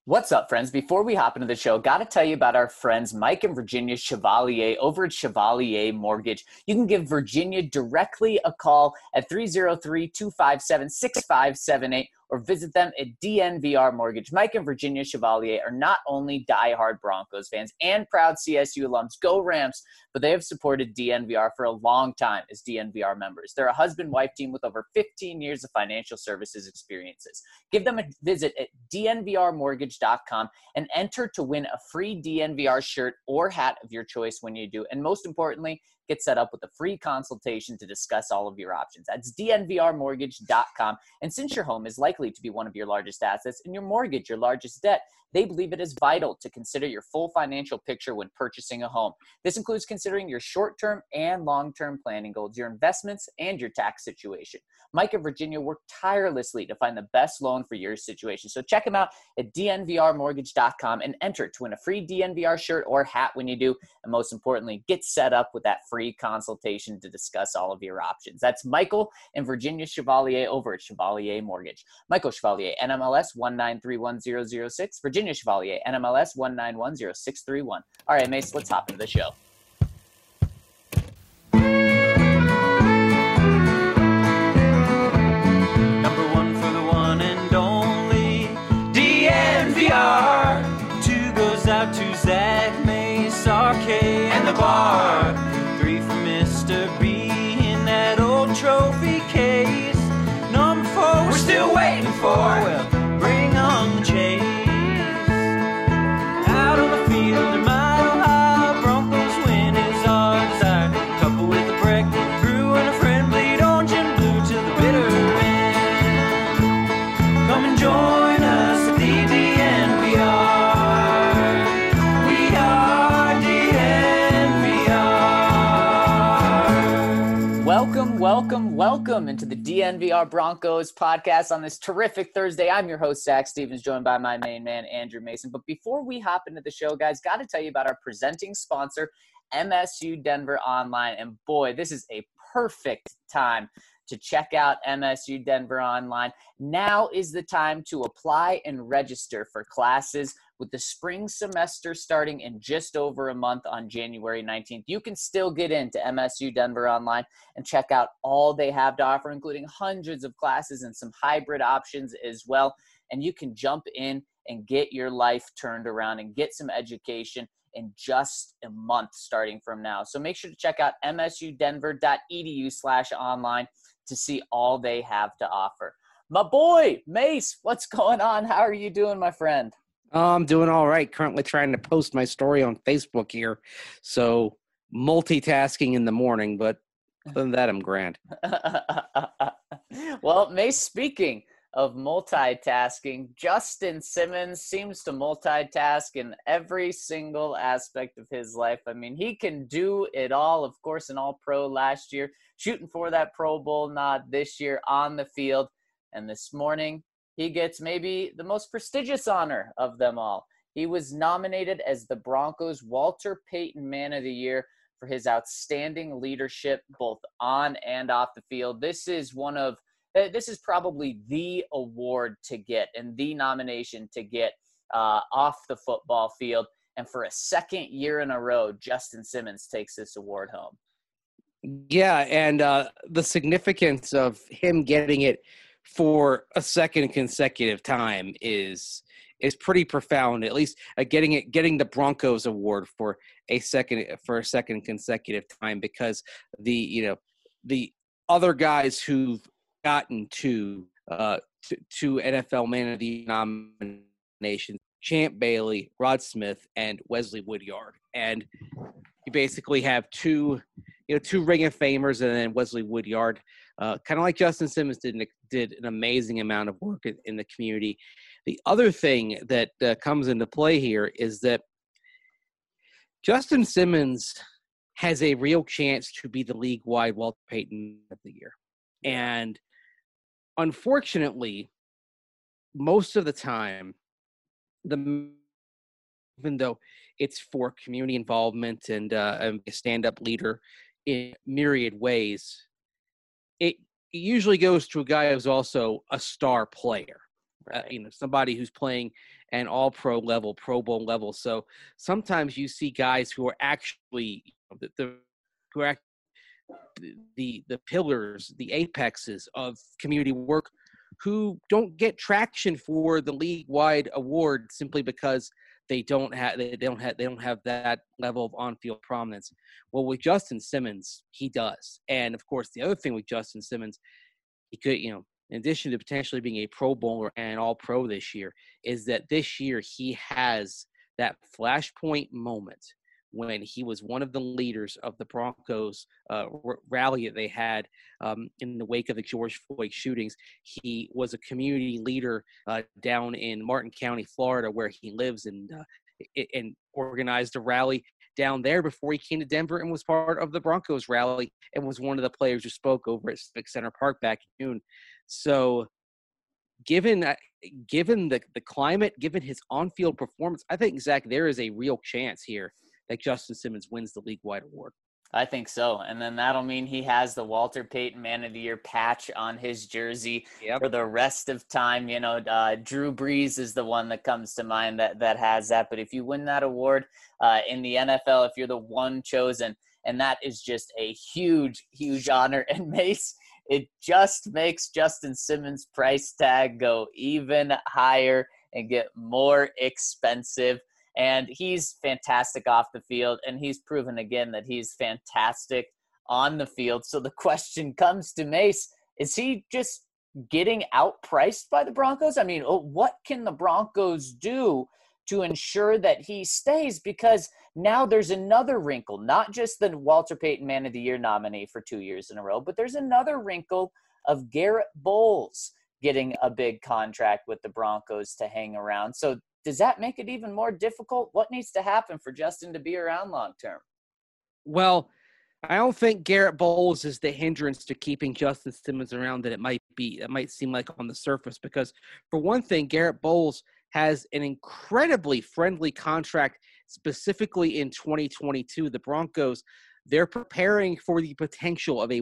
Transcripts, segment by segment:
What's up, friends? Before we hop into the show, got to tell you about our friends Mike and Virginia Chevalier over at Chevalier Mortgage. You can give Virginia directly a call at 303-257-6578 or visit them at DNVR Mortgage. Mike and Virginia Chevalier are not only diehard Broncos fans and proud CSU alums, go Rams, but they have supported DNVR for a long time as DNVR members. They're a husband-wife team with over 15 years of financial services experiences. Give them a visit at dnvrmortgage.com and enter to win a free DNVR shirt or hat of your choice when you do. And most importantly, get set up with a free consultation to discuss all of your options. That's dnvrmortgage.com. And since your home is likely to be one of your largest assets and your mortgage your largest debt, they believe it is vital to consider your full financial picture when purchasing a home. This includes considering your short-term and long-term planning goals, your investments, and your tax situation. Mike and Virginia work tirelessly to find the best loan for your situation. So check them out at dnvrmortgage.com and enter to win a free DNVR shirt or hat when you do. And most importantly, get set up with that free consultation to discuss all of your options. That's Michael and Virginia Chevalier over at Chevalier Mortgage. Michael Chevalier, NMLS 1931006. Virginia Chevalier, NMLS 1910631. All right, Mace, let's hop into the show. Number one for the one and only DNVR. Two goes out to Zach, Mace, RK, and the bar. Three for Mr. B in that old trophy case. Number four, we're still waiting for. Well, bring on the chase. Out on the field, a mile high, Broncos win is our desire. Couple with a break, brew and a friend, bleed orange and blue to the bitter end. Come and join us at the DNVR. We are DNVR. Welcome into the DNVR Broncos podcast on this terrific Thursday. I'm your host, Zach Stevens, joined by my main man, Andrew Mason. But before we hop into the show, guys, got to tell you about our presenting sponsor, MSU Denver Online. And boy, this is a perfect time to check out MSU Denver Online. Now is the time to apply and register for classes with the spring semester starting in just over a month on January 19th. You can still get into MSU Denver Online and check out all they have to offer, including hundreds of classes and some hybrid options as well. And you can jump in and get your life turned around and get some education in just a month starting from now. So make sure to check out msudenver.edu/online to see all they have to offer. My boy, Mace, what's going on? How are you doing, my friend? I'm doing all right. Currently trying to post my story on Facebook here. So multitasking in the morning, but other than that, I'm grand. Well, Mace, speaking of multitasking, Justin Simmons seems to multitask in every single aspect of his life. I mean, he can do it all. Of course, an All-Pro last year, shooting for that Pro Bowl nod this year on the field. And this morning, he gets maybe the most prestigious honor of them all. He was nominated as the Broncos' Walter Payton Man of the Year for his outstanding leadership both on and off the field. This is probably the award to get and the nomination to get off the football field. And for a second year in a row, Justin Simmons takes this award home. Yeah, and the significance of him getting it for a second consecutive time is pretty profound. At least getting the Broncos award for a second consecutive time, because the other guys who've gotten to NFL Man of the Year nomination, Champ Bailey, Rod Smith, and Wesley Woodyard, and you basically have two Ring of Famers, and then Wesley Woodyard, kind of like Justin Simmons did an amazing amount of work in the community. The other thing that comes into play here is that Justin Simmons has a real chance to be the league-wide Walter Payton of the Year. And unfortunately, most of the time, even though it's for community involvement and a stand-up leader in myriad ways, it usually goes to a guy who's also a star player. Right. Somebody who's playing and all pro level, Pro Bowl level. So sometimes you see guys who are actually who are the pillars, the apexes of community work, who don't get traction for the league-wide award simply because they don't have that level of on-field prominence. Well, with Justin Simmons, he does. And of course, the other thing with Justin Simmons, he could, in addition to potentially being a Pro Bowler and All-Pro this year, is that this year he has that flashpoint moment when he was one of the leaders of the Broncos rally that they had in the wake of the George Floyd shootings. He was a community leader down in Martin County, Florida, where he lives, and organized a rally down there before he came to Denver and was part of the Broncos rally and was one of the players who spoke over at Civic Center Park back in June. So given the climate, given his on-field performance, I think, Zach, there is a real chance here that Justin Simmons wins the league-wide award. I think so. And then that'll mean he has the Walter Payton Man of the Year patch on his jersey for the rest of time. Drew Brees is the one that comes to mind that has that. But if you win that award in the NFL, if you're the one chosen, and that is just a huge, huge honor. And Mace, it just makes Justin Simmons' price tag go even higher and get more expensive. And he's fantastic off the field, and he's proven again that he's fantastic on the field. So the question comes to Mace, is he just getting outpriced by the Broncos? I mean, what can the Broncos do to ensure that he stays? Because now there's another wrinkle, not just the Walter Payton Man of the Year nominee for 2 years in a row, but there's another wrinkle of Garrett Bowles getting a big contract with the Broncos to hang around. So does that make it even more difficult? What needs to happen for Justin to be around long term? Well, I don't think Garrett Bowles is the hindrance to keeping Justin Simmons around that it might be. It might seem like on the surface, because for one thing, Garrett Bowles has an incredibly friendly contract specifically in 2022. The Broncos, they're preparing for the potential of a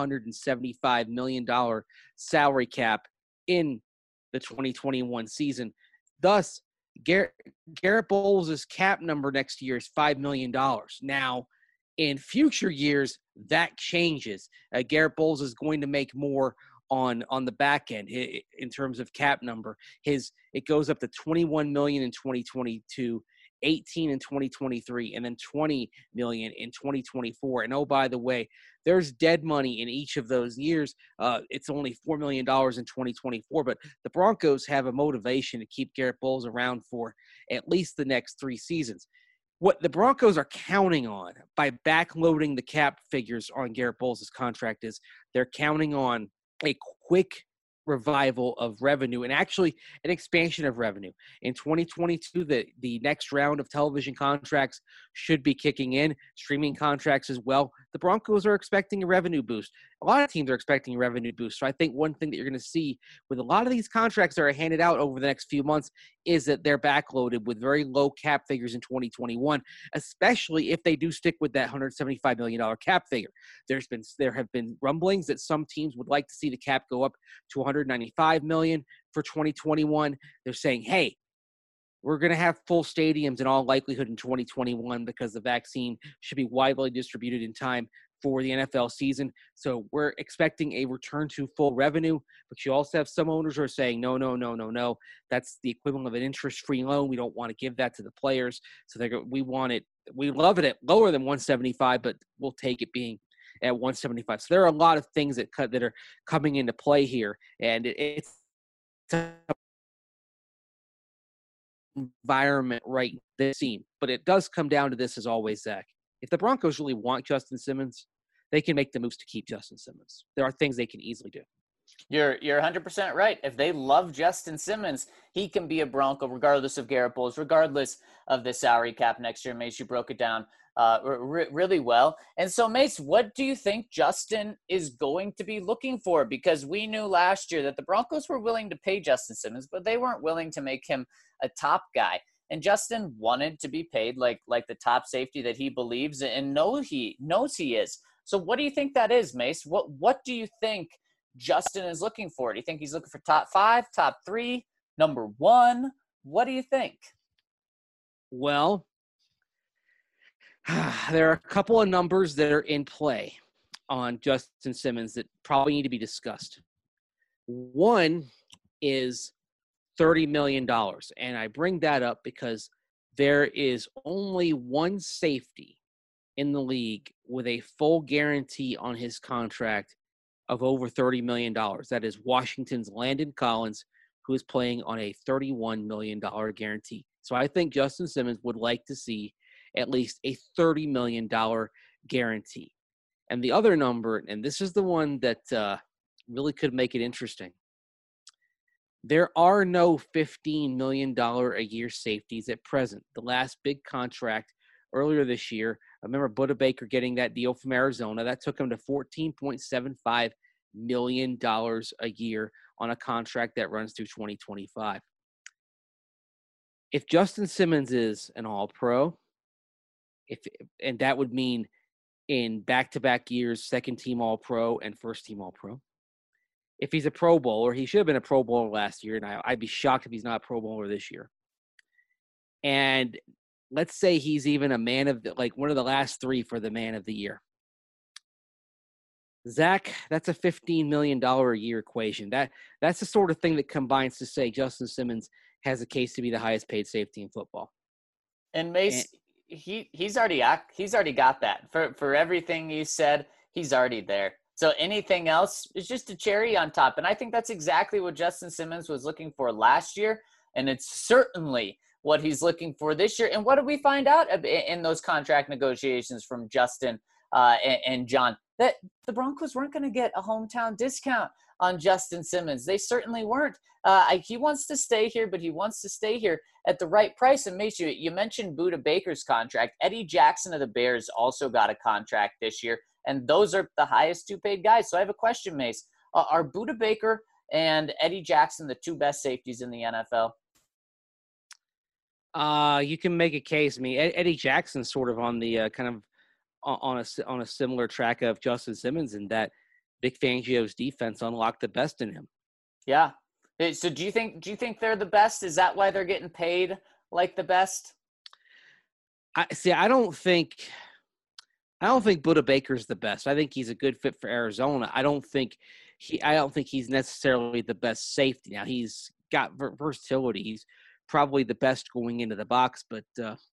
$175 million salary cap in the 2021 season. Thus, Garrett Bowles' cap number next year is $5 million. Now, in future years, that changes. Garrett Bowles is going to make more on the back end in terms of cap number. It goes up to $21 million in 2022, 18 in 2023, and then 20 million in 2024. And oh, by the way, there's dead money in each of those years. It's only $4 million in 2024, but the Broncos have a motivation to keep Garrett Bowles around for at least the next 3 seasons. What the Broncos are counting on by backloading the cap figures on Garrett Bowles' contract is they're counting on a quick revival of revenue and actually an expansion of revenue. In 2022, the next round of television contracts should be kicking in, streaming contracts as well. The Broncos are expecting a revenue boost. A lot of teams are expecting a revenue boost. So I think one thing that you're going to see with a lot of these contracts that are handed out over the next few months is that they're backloaded with very low cap figures in 2021, especially if they do stick with that $175 million cap figure. There have been rumblings that some teams would like to see the cap go up to $195 million for 2021. They're saying, hey, we're going to have full stadiums in all likelihood in 2021 because the vaccine should be widely distributed in time for the NFL season. So we're expecting a return to full revenue, but you also have some owners who are saying, no. That's the equivalent of an interest-free loan. We don't want to give that to the players. So we love it at lower than 175, but we'll take it being at 175. So there are a lot of things that are coming into play here, and it's environment right this scene. But it does come down to this as always, Zach. If the Broncos really want Justin Simmons, they can make the moves to keep Justin Simmons. There are things they can easily do. You're 100% right. If they love Justin Simmons, he can be a Bronco regardless of Garrett Bowles, regardless of the salary cap next year. Mace, you broke it down really well. And so, Mace, what do you think Justin is going to be looking for? Because we knew last year that the Broncos were willing to pay Justin Simmons, but they weren't willing to make him a top guy. And Justin wanted to be paid like the top safety that he believes and knows he is. So what do you think that is, Mace? What do you think Justin is looking for? Do you think he's looking for top 5, top 3, number 1? What do you think? Well, there are a couple of numbers that are in play on Justin Simmons that probably need to be discussed. One is $30 million. And I bring that up because there is only one safety in the league with a full guarantee on his contract of over $30 million. That is Washington's Landon Collins, who is playing on a $31 million guarantee. So I think Justin Simmons would like to see at least a $30 million guarantee. And the other number, and this is the one that really could make it interesting, there are no $15 million a year safeties at present. The last big contract earlier this year, I remember Budda Baker getting that deal from Arizona. That took him to $14.75 million a year on a contract that runs through 2025. If Justin Simmons is an All-Pro, and that would mean in back-to-back years, second-team All-Pro and first-team All-Pro. If he's a Pro Bowler, he should have been a Pro Bowler last year, and I'd be shocked if he's not a Pro Bowler this year. And let's say he's even a man of one of the last three for the man of the year. Zach, that's a $15 million a year equation. That's the sort of thing that combines to say Justin Simmons has a case to be the highest paid safety in football. And Mace, he's already got that. For everything you said, he's already there. So anything else is just a cherry on top. And I think that's exactly what Justin Simmons was looking for last year. And it's certainly what he's looking for this year. And what did we find out in those contract negotiations from Justin and John? That the Broncos weren't going to get a hometown discount on Justin Simmons. They certainly weren't. He wants to stay here, but he wants to stay here at the right price. And Mace, you mentioned Budda Baker's contract. Eddie Jackson of the Bears also got a contract this year. And those are the highest two paid guys. So I have a question, Mace. Are Budda Baker and Eddie Jackson the two best safeties in the NFL? You can make a case. I mean, Eddie Jackson's sort of on the kind of on a similar track of Justin Simmons in that Vic Fangio's defense unlocked the best in him. Yeah. So do you think they're the best? Is that why they're getting paid like the best? I don't think Budda Baker's the best. I think he's a good fit for Arizona. I don't think he's necessarily the best safety. Now he's got versatility. He's probably the best going into the box, but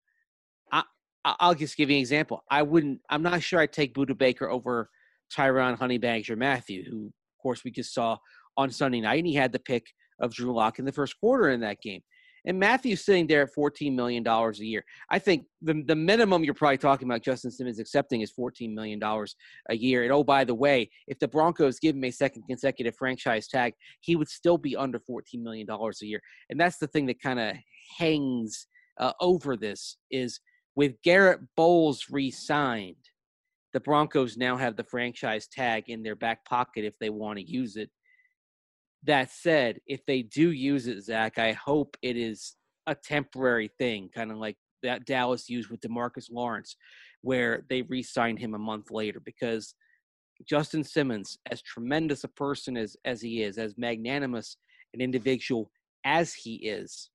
I'll just give you an example. I'm not sure I'd take Budda Baker over Tyron Honeybags or Matthew, who of course we just saw on Sunday night, and he had the pick of Drew Lock in the first quarter in that game. And Matthew's sitting there at $14 million a year. I think the minimum you're probably talking about Justin Simmons accepting is $14 million a year. And, oh, by the way, if the Broncos give him a second consecutive franchise tag, he would still be under $14 million a year. And that's the thing that kind of hangs over this is with Garrett Bowles re-signed, the Broncos now have the franchise tag in their back pocket if they want to use it. That said, if they do use it, Zach, I hope it is a temporary thing, kind of like that Dallas used with DeMarcus Lawrence, where they re-signed him a month later. Because Justin Simmons, as tremendous a person as he is, as magnanimous an individual as he is,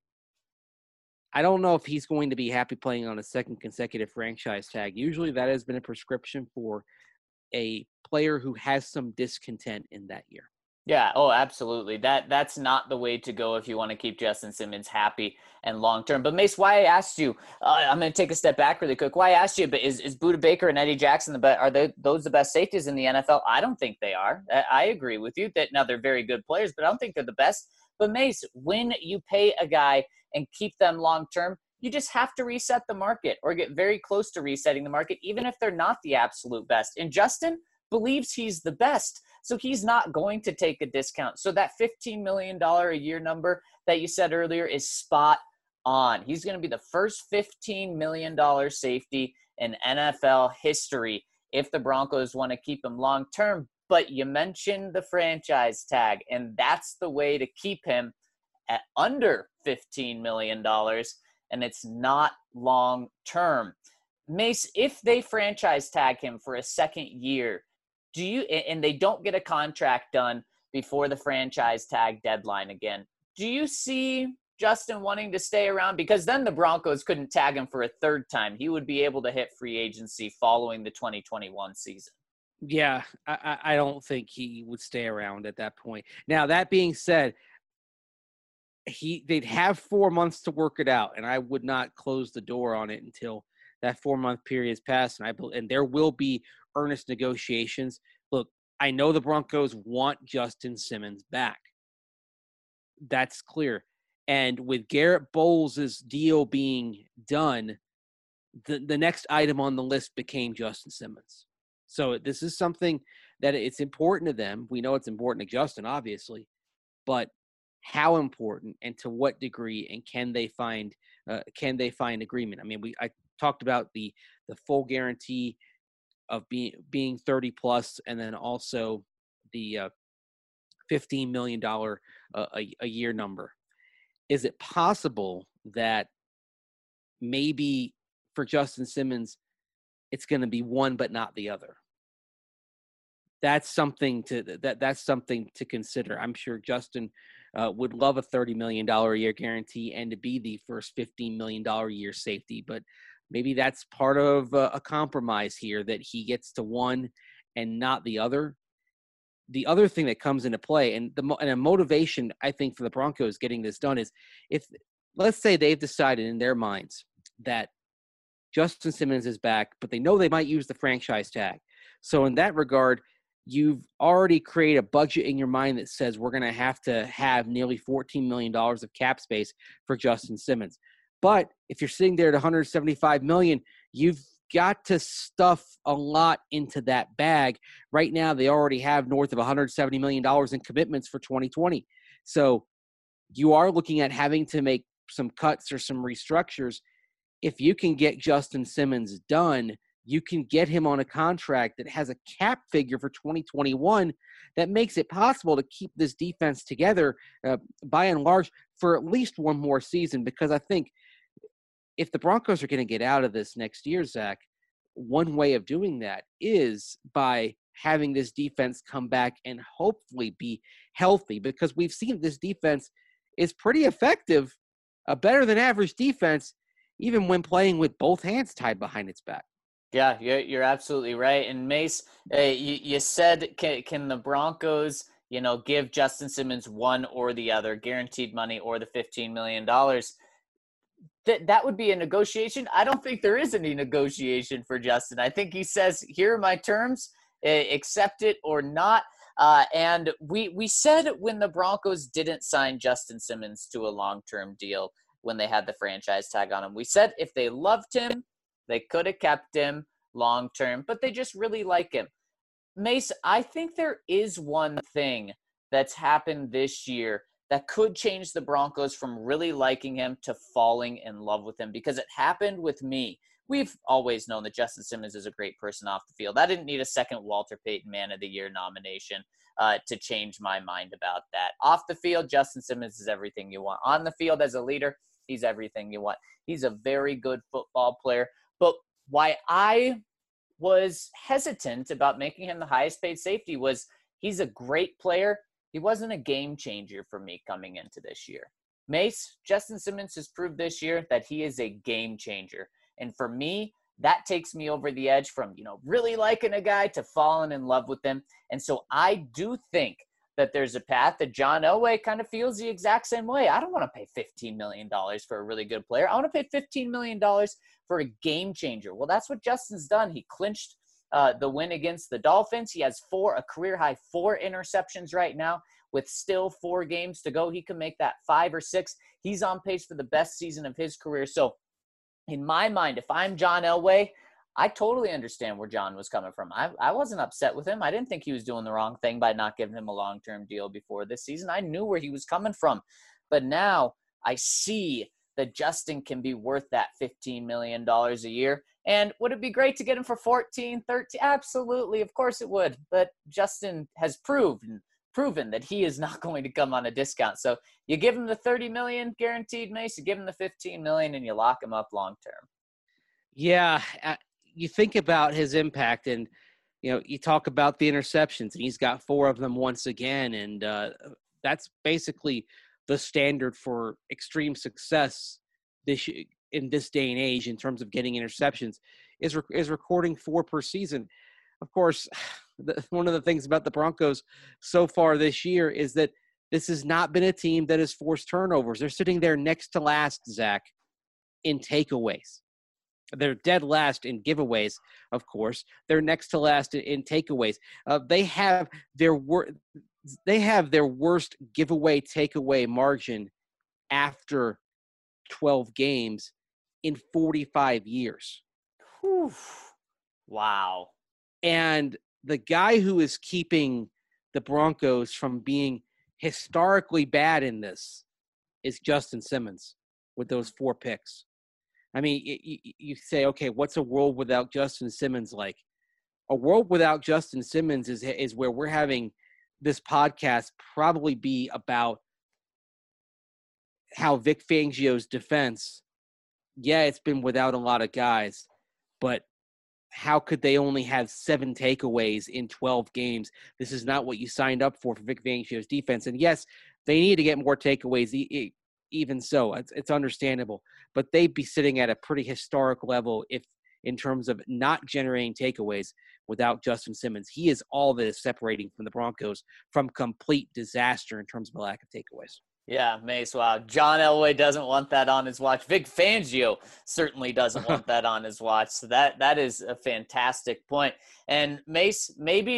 I don't know if he's going to be happy playing on a second consecutive franchise tag. Usually that has been a prescription for a player who has some discontent in that year. Yeah, oh, absolutely. That's not the way to go if you want to keep Justin Simmons happy and long-term. But, Mace, why I asked you, I'm going to take a step back really quick. Why I asked you, but is Budda Baker and Eddie Jackson those the best safeties in the NFL? I don't think they are. I agree with you that now they're very good players, but I don't think they're the best. But, Mace, when you pay a guy and keep them long-term, you just have to reset the market or get very close to resetting the market, even if they're not the absolute best. And Justin believes he's the best, so he's not going to take a discount. So that $15 million a year number that you said earlier is spot on. He's going to be the first $15 million safety in NFL history if the Broncos want to keep him long-term. But you mentioned the franchise tag, and that's the way to keep him at under $15 million, and it's not long-term. Mace, if they franchise tag him for a second year, and they don't get a contract done before the franchise tag deadline again, do you see Justin wanting to stay around? Because then the Broncos couldn't tag him for a third time. He would be able to hit free agency following the 2021 season. Yeah, I don't think he would stay around at that point. Now, that being said, they'd have 4 months to work it out, and I would not close the door on it until that 4-month period is passed. And there will be earnest negotiations. Look, I know the Broncos want Justin Simmons back. That's clear. And with Garrett Bowles' deal being done, the next item on the list became Justin Simmons. So this is something that it's important to them. We know it's important to Justin, obviously, but how important and to what degree, and can they find agreement? I mean, I talked about the full guarantee of being 30 plus, and then also the $15 million a year number. Is it possible that maybe for Justin Simmons, it's going to be one but not the other? That's something to consider. I'm sure Justin would love a $30 million a year guarantee and to be the first $15 million a year safety, but maybe that's part of a compromise here, that he gets to one and not the other. The other thing that comes into play, and a motivation, I think, for the Broncos getting this done is, if, let's say, they've decided in their minds that Justin Simmons is back, but they know they might use the franchise tag. So in that regard, you've already created a budget in your mind that says we're going to have nearly $14 million of cap space for Justin Simmons. But if you're sitting there at $175 million, you've got to stuff a lot into that bag. Right now, they already have north of $170 million in commitments for 2020. So you are looking at having to make some cuts or some restructures. If you can get Justin Simmons done, you can get him on a contract that has a cap figure for 2021 that makes it possible to keep this defense together by and large for at least one more season. Because I think if the Broncos are going to get out of this next year, Zach, one way of doing that is by having this defense come back and hopefully be healthy, because we've seen this defense is pretty effective, a better than average defense, even when playing with both hands tied behind its back. Yeah, you're absolutely right. And Mace, you said, can the Broncos, give Justin Simmons one or the other, guaranteed money or the $15 million? That would be a negotiation. I don't think there is any negotiation for Justin. I think he says, here are my terms, accept it or not. And we said when the Broncos didn't sign Justin Simmons to a long-term deal, when they had the franchise tag on him, we said if they loved him, they could have kept him long-term, but they just really like him. Mace, I think there is one thing that's happened this year that could change the Broncos from really liking him to falling in love with him, because it happened with me. We've always known that Justin Simmons is a great person off the field. I didn't need a second Walter Payton Man of the Year nomination to change my mind about that. Off the field, Justin Simmons is everything you want. On the field as a leader, he's everything you want. He's a very good football player. But why I was hesitant about making him the highest paid safety was he's a great player. He wasn't a game changer for me coming into this year. Mace, Justin Simmons has proved this year that he is a game changer. And for me, that takes me over the edge from, really liking a guy to falling in love with him. And so I do think that there's a path that John Elway kind of feels the exact same way. I don't want to pay $15 million for a really good player. I want to pay $15 million for a game changer. Well, that's what Justin's done. He clinched the win against the Dolphins. He has a career-high 4 interceptions right now. With still 4 games to go, he can make that 5 or 6. He's on pace for the best season of his career. So in my mind, if I'm John Elway, I totally understand where John was coming from. I wasn't upset with him. I didn't think he was doing the wrong thing by not giving him a long-term deal before this season. I knew where he was coming from. But now I see that Justin can be worth that $15 million a year. And would it be great to get him for 14, 13? Absolutely. Of course it would. But Justin has proven that he is not going to come on a discount. So you give him the $30 million guaranteed, Mace, you give him the $15 million, and you lock him up long-term. Yeah. You think about his impact, and, you talk about the interceptions, and he's got 4 of them once again. And that's basically the standard for extreme success in this day and age in terms of getting interceptions is recording 4 per season. Of course, one of the things about the Broncos so far this year is that this has not been a team that has forced turnovers. They're sitting there next to last, Zach, in takeaways. They're dead last in giveaways, of course. They're next to last in takeaways. They have their worst giveaway takeaway margin after 12 games in 45 years. Whew. Wow. And the guy who is keeping the Broncos from being historically bad in this is Justin Simmons with those 4 picks. I mean, you say, okay, what's a world without Justin Simmons like? A world without Justin Simmons is where we're having this podcast probably be about how Vic Fangio's defense, it's been without a lot of guys, but how could they only have 7 takeaways in 12 games? This is not what you signed up for Vic Fangio's defense. And yes, they need to get more takeaways. Even so, it's understandable. But they'd be sitting at a pretty historic level if, in terms of not generating takeaways without Justin Simmons. He is all that is separating from the Broncos from complete disaster in terms of a lack of takeaways. Yeah, Mace, wow. John Elway doesn't want that on his watch. Vic Fangio certainly doesn't want that on his watch. So that is a fantastic point. And Mace, maybe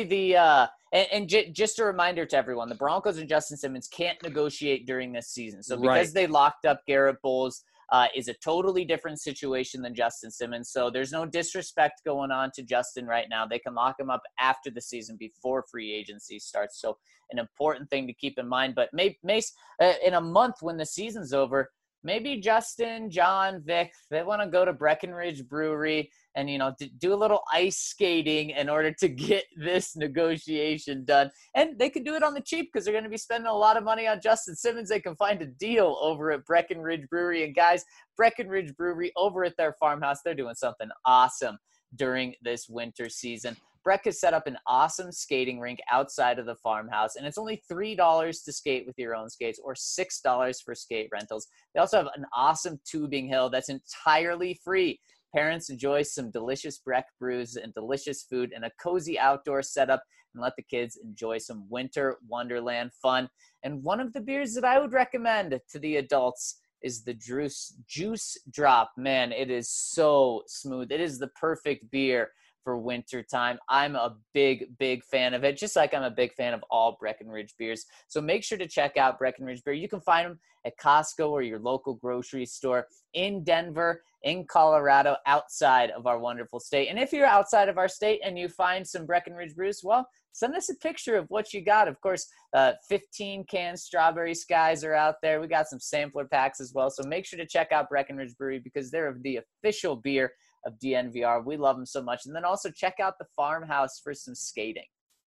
just a reminder to everyone, the Broncos and Justin Simmons can't negotiate during this season. So because they locked up Garrett Bowles, is a totally different situation than Justin Simmons. So there's no disrespect going on to Justin right now. They can lock him up after the season before free agency starts. So an important thing to keep in mind. But Mace, in a month when the season's over, maybe Justin, John, Vic, they want to go to Breckenridge Brewery and, do a little ice skating in order to get this negotiation done. And they can do it on the cheap because they're going to be spending a lot of money on Justin Simmons. They can find a deal over at Breckenridge Brewery. And guys, Breckenridge Brewery over at their farmhouse, they're doing something awesome during this winter season. Breck has set up an awesome skating rink outside of the farmhouse, and it's only $3 to skate with your own skates or $6 for skate rentals. They also have an awesome tubing hill that's entirely free. Parents enjoy some delicious Breck brews and delicious food and a cozy outdoor setup, and let the kids enjoy some winter wonderland fun. And one of the beers that I would recommend to the adults is the Juice Drop. Man, it is so smooth. It is the perfect beer for winter time. I'm a big fan of it, just like I'm a big fan of all Breckenridge beers. So make sure to check out Breckenridge Beer. You can find them at Costco or your local grocery store in Denver, in Colorado, outside of our wonderful state. And if you're outside of our state and you find some Breckenridge brews, well, send us a picture of what you got. Of course, 15 canned Strawberry Skies are out there. We got some sampler packs as well. So make sure to check out Breckenridge Brewery because they're the official beer of DNVR. We love them so much. And then also check out the farmhouse for some skating.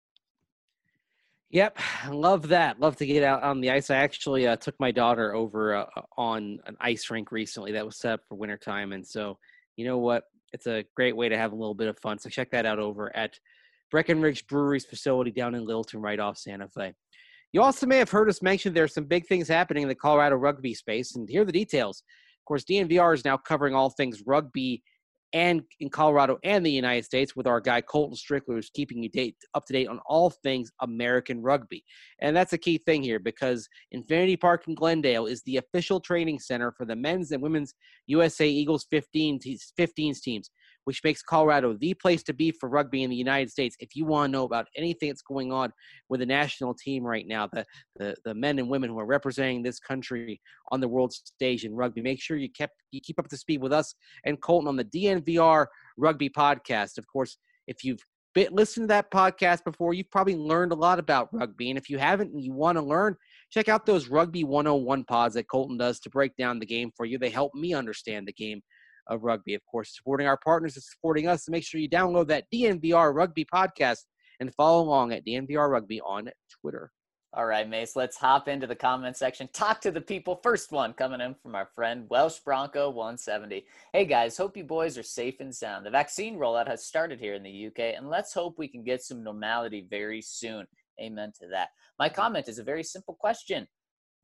Yep, love that. Love to get out on the ice. I actually took my daughter over on an ice rink recently that was set up for wintertime. And so, you know what? It's a great way to have a little bit of fun. So check that out over at Breckenridge Brewery's facility down in Littleton, right off Santa Fe. You also may have heard us mention there's some big things happening in the Colorado rugby space, and here are the details. Of course, DNVR is now covering all things rugby and in Colorado and the United States with our guy Colton Strickler, who's keeping you up to date on all things American rugby. And that's a key thing here because Infinity Park in Glendale is the official training center for the men's and women's USA Eagles 15s teams, which makes Colorado the place to be for rugby in the United States. If you want to know about anything that's going on with the national team right now, the men and women who are representing this country on the world stage in rugby, make sure you keep up to speed with us and Colton on the DNVR Rugby Podcast. Of course, if you've listened to that podcast before, you've probably learned a lot about rugby. And if you haven't and you want to learn, check out those Rugby 101 pods that Colton does to break down the game for you. They help me understand the game of rugby. Of course, supporting our partners and supporting us. So make sure you download that DNVR Rugby Podcast and follow along at DNVR Rugby on Twitter. All right, Mace, let's hop into the comment section. Talk to the people. First one coming in from our friend Welsh Bronco 170. Hey guys, hope you boys are safe and sound. The vaccine rollout has started here in the UK, and let's hope we can get some normality very soon. Amen to that. My comment is a very simple question.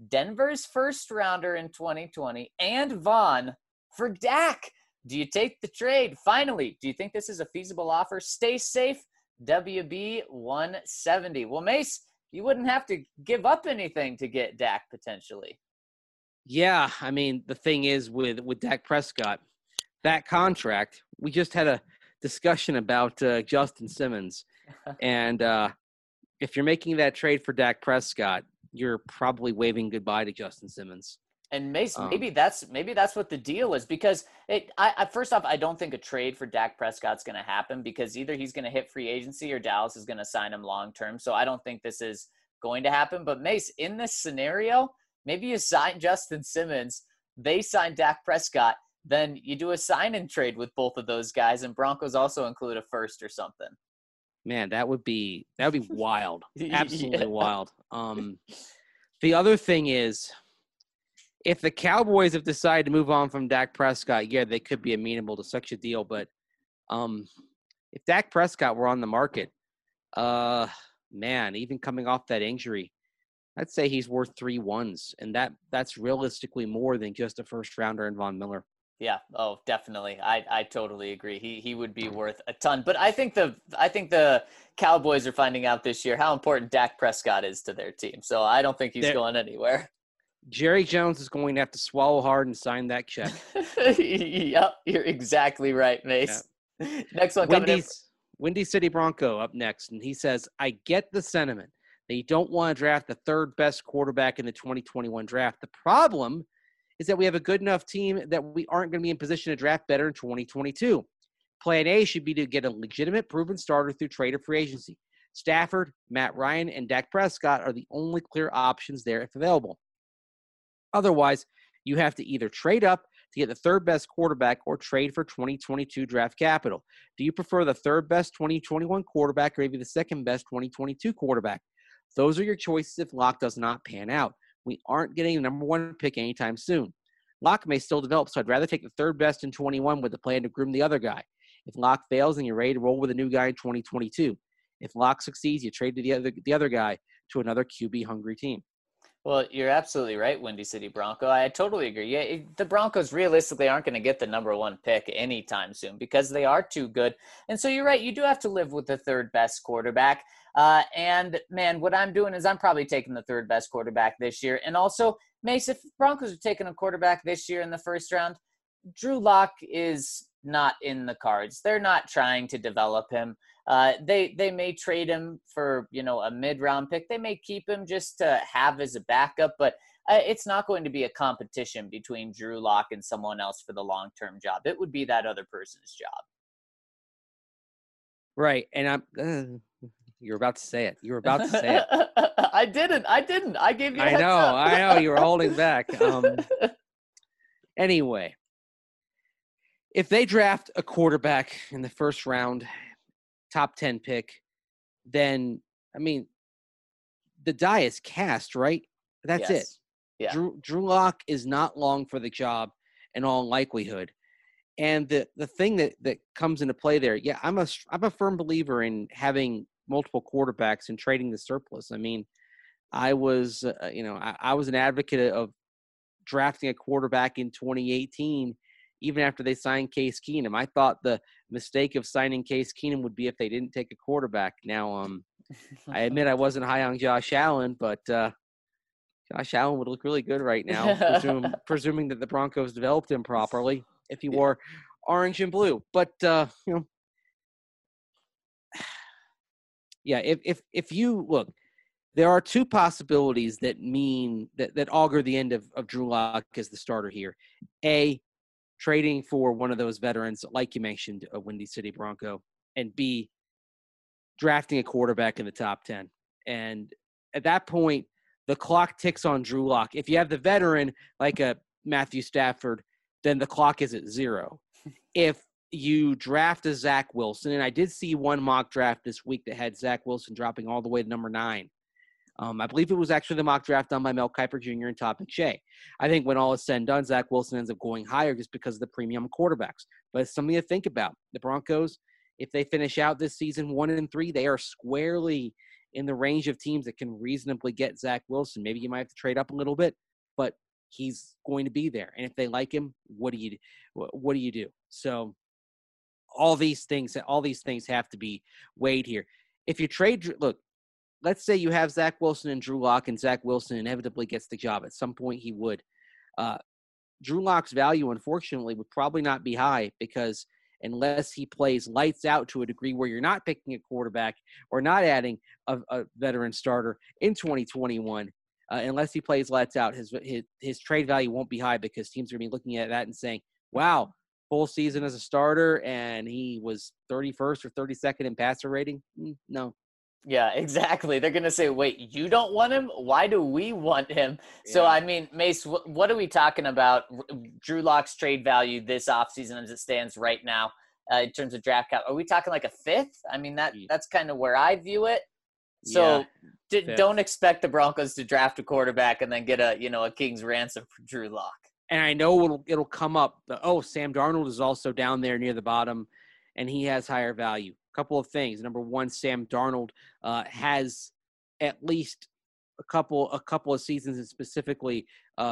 Denver's first rounder in 2020 and Vaughn for Dak. Do you take the trade? Finally, do you think this is a feasible offer? Stay safe. WB 170. Well, Mace, you wouldn't have to give up anything to get Dak potentially. Yeah, I mean, the thing is with Dak Prescott, that contract, we just had a discussion about Justin Simmons. And if you're making that trade for Dak Prescott, you're probably waving goodbye to Justin Simmons. And Mace, maybe that's what the deal is, because first off, I don't think a trade for Dak Prescott's going to happen, because either he's going to hit free agency or Dallas is going to sign him long term. So I don't think this is going to happen. But Mace, in this scenario, maybe you sign Justin Simmons, they sign Dak Prescott, then you do a sign and trade with both of those guys, and Broncos also include a first or something. Man, that would be wild. Absolutely wild. The other thing is, if the Cowboys have decided to move on from Dak Prescott, yeah, they could be amenable to such a deal. But if Dak Prescott were on the market, man, even coming off that injury, I'd say he's worth 3 ones, and that's realistically more than just a first rounder in Von Miller. Yeah. Oh, definitely. I totally agree. He would be worth a ton. But I think the Cowboys are finding out this year how important Dak Prescott is to their team. So I don't think he's going anywhere. Jerry Jones is going to have to swallow hard and sign that check. Yep, you're exactly right, Mace. Yeah. Next one coming in. Windy City Bronco up next, and he says, I get the sentiment that you don't want to draft the third best quarterback in the 2021 draft. The problem is that we have a good enough team that we aren't going to be in position to draft better in 2022. Plan A should be to get a legitimate, proven starter through trade or free agency. Stafford, Matt Ryan, and Dak Prescott are the only clear options there if available. Otherwise, you have to either trade up to get the third best quarterback or trade for 2022 draft capital. Do you prefer the third best 2021 quarterback or maybe the second best 2022 quarterback? Those are your choices if Locke does not pan out. We aren't getting the number 1 pick anytime soon. Locke may still develop, so I'd rather take the third best in 21 with the plan to groom the other guy. If Locke fails, then you're ready to roll with a new guy in 2022. If Locke succeeds, you trade to the other guy to another QB-hungry team. Well, you're absolutely right, Windy City Bronco. I totally agree. Yeah, the Broncos realistically aren't going to get the number 1 pick anytime soon because they are too good. And so you're right. You do have to live with the third best quarterback. And, man, what I'm doing is I'm probably taking the third best quarterback this year. And also, Mace, if Broncos are taking a quarterback this year in the first round, Drew Lock is not in the cards. They're not trying to develop him. They may trade him for, a mid-round pick. They may keep him just to have as a backup, but it's not going to be a competition between Drew Lock and someone else for the long-term job. It would be that other person's job. Right. And you're about to say it. You were about to say it. I didn't. I gave you a heads up. I know. You were holding back. Anyway, if they draft a quarterback in the first round, top 10 pick, then, the die is cast, right? That's it. Yeah. Drew Lock is not long for the job in all likelihood. And the thing that comes into play there, I'm a firm believer in having multiple quarterbacks and trading the surplus. I was I was an advocate of drafting a quarterback in 2018, even after they signed Case Keenum. I thought the mistake of signing Case Keenum would be if they didn't take a quarterback. Now, I admit I wasn't high on Josh Allen, but Josh Allen would look really good right now, presuming that the Broncos developed him properly if he wore orange and blue. But, if you look, there are 2 possibilities that mean that augur the end of Drew Lock as the starter here. A, trading for one of those veterans, like you mentioned, a Windy City Bronco, and B, drafting a quarterback in the top 10. And at that point, the clock ticks on Drew Lock. If you have the veteran, like a Matthew Stafford, then the clock is at 0. If you draft a Zach Wilson, and I did see one mock draft this week that had Zach Wilson dropping all the way to number 9. I believe it was actually the mock draft done by Mel Kiper Jr. and Todd McShay. I think when all is said and done, Zach Wilson ends up going higher just because of the premium quarterbacks. But it's something to think about. The Broncos, if they finish out this season 1-3, they are squarely in the range of teams that can reasonably get Zach Wilson. Maybe you might have to trade up a little bit, but he's going to be there. And if they like him, what do you do? So all these things have to be weighed here. If you trade, look, let's say you have Zach Wilson and Drew Lock, and Zach Wilson inevitably gets the job. At some point he would. Drew Lock's value, unfortunately, would probably not be high because unless he plays lights out to a degree where you're not picking a quarterback or not adding a veteran starter in 2021, unless he plays lights out, his trade value won't be high because teams are going to be looking at that and saying, wow, full season as a starter, and he was 31st or 32nd in passer rating? No. Yeah, exactly. They're going to say, wait, you don't want him? Why do we want him? Yeah. So, I mean, Mace, what are we talking about? Drew Lock's trade value this offseason as it stands right now in terms of draft cap. Are we talking like a fifth? I mean, that's kind of where I view it. So don't expect the Broncos to draft a quarterback and then get a king's ransom for Drew Lock. And I know it'll come up. Sam Darnold is also down there near the bottom, and he has higher value. Couple of things. Number one, Sam Darnold has at least a couple of seasons, and specifically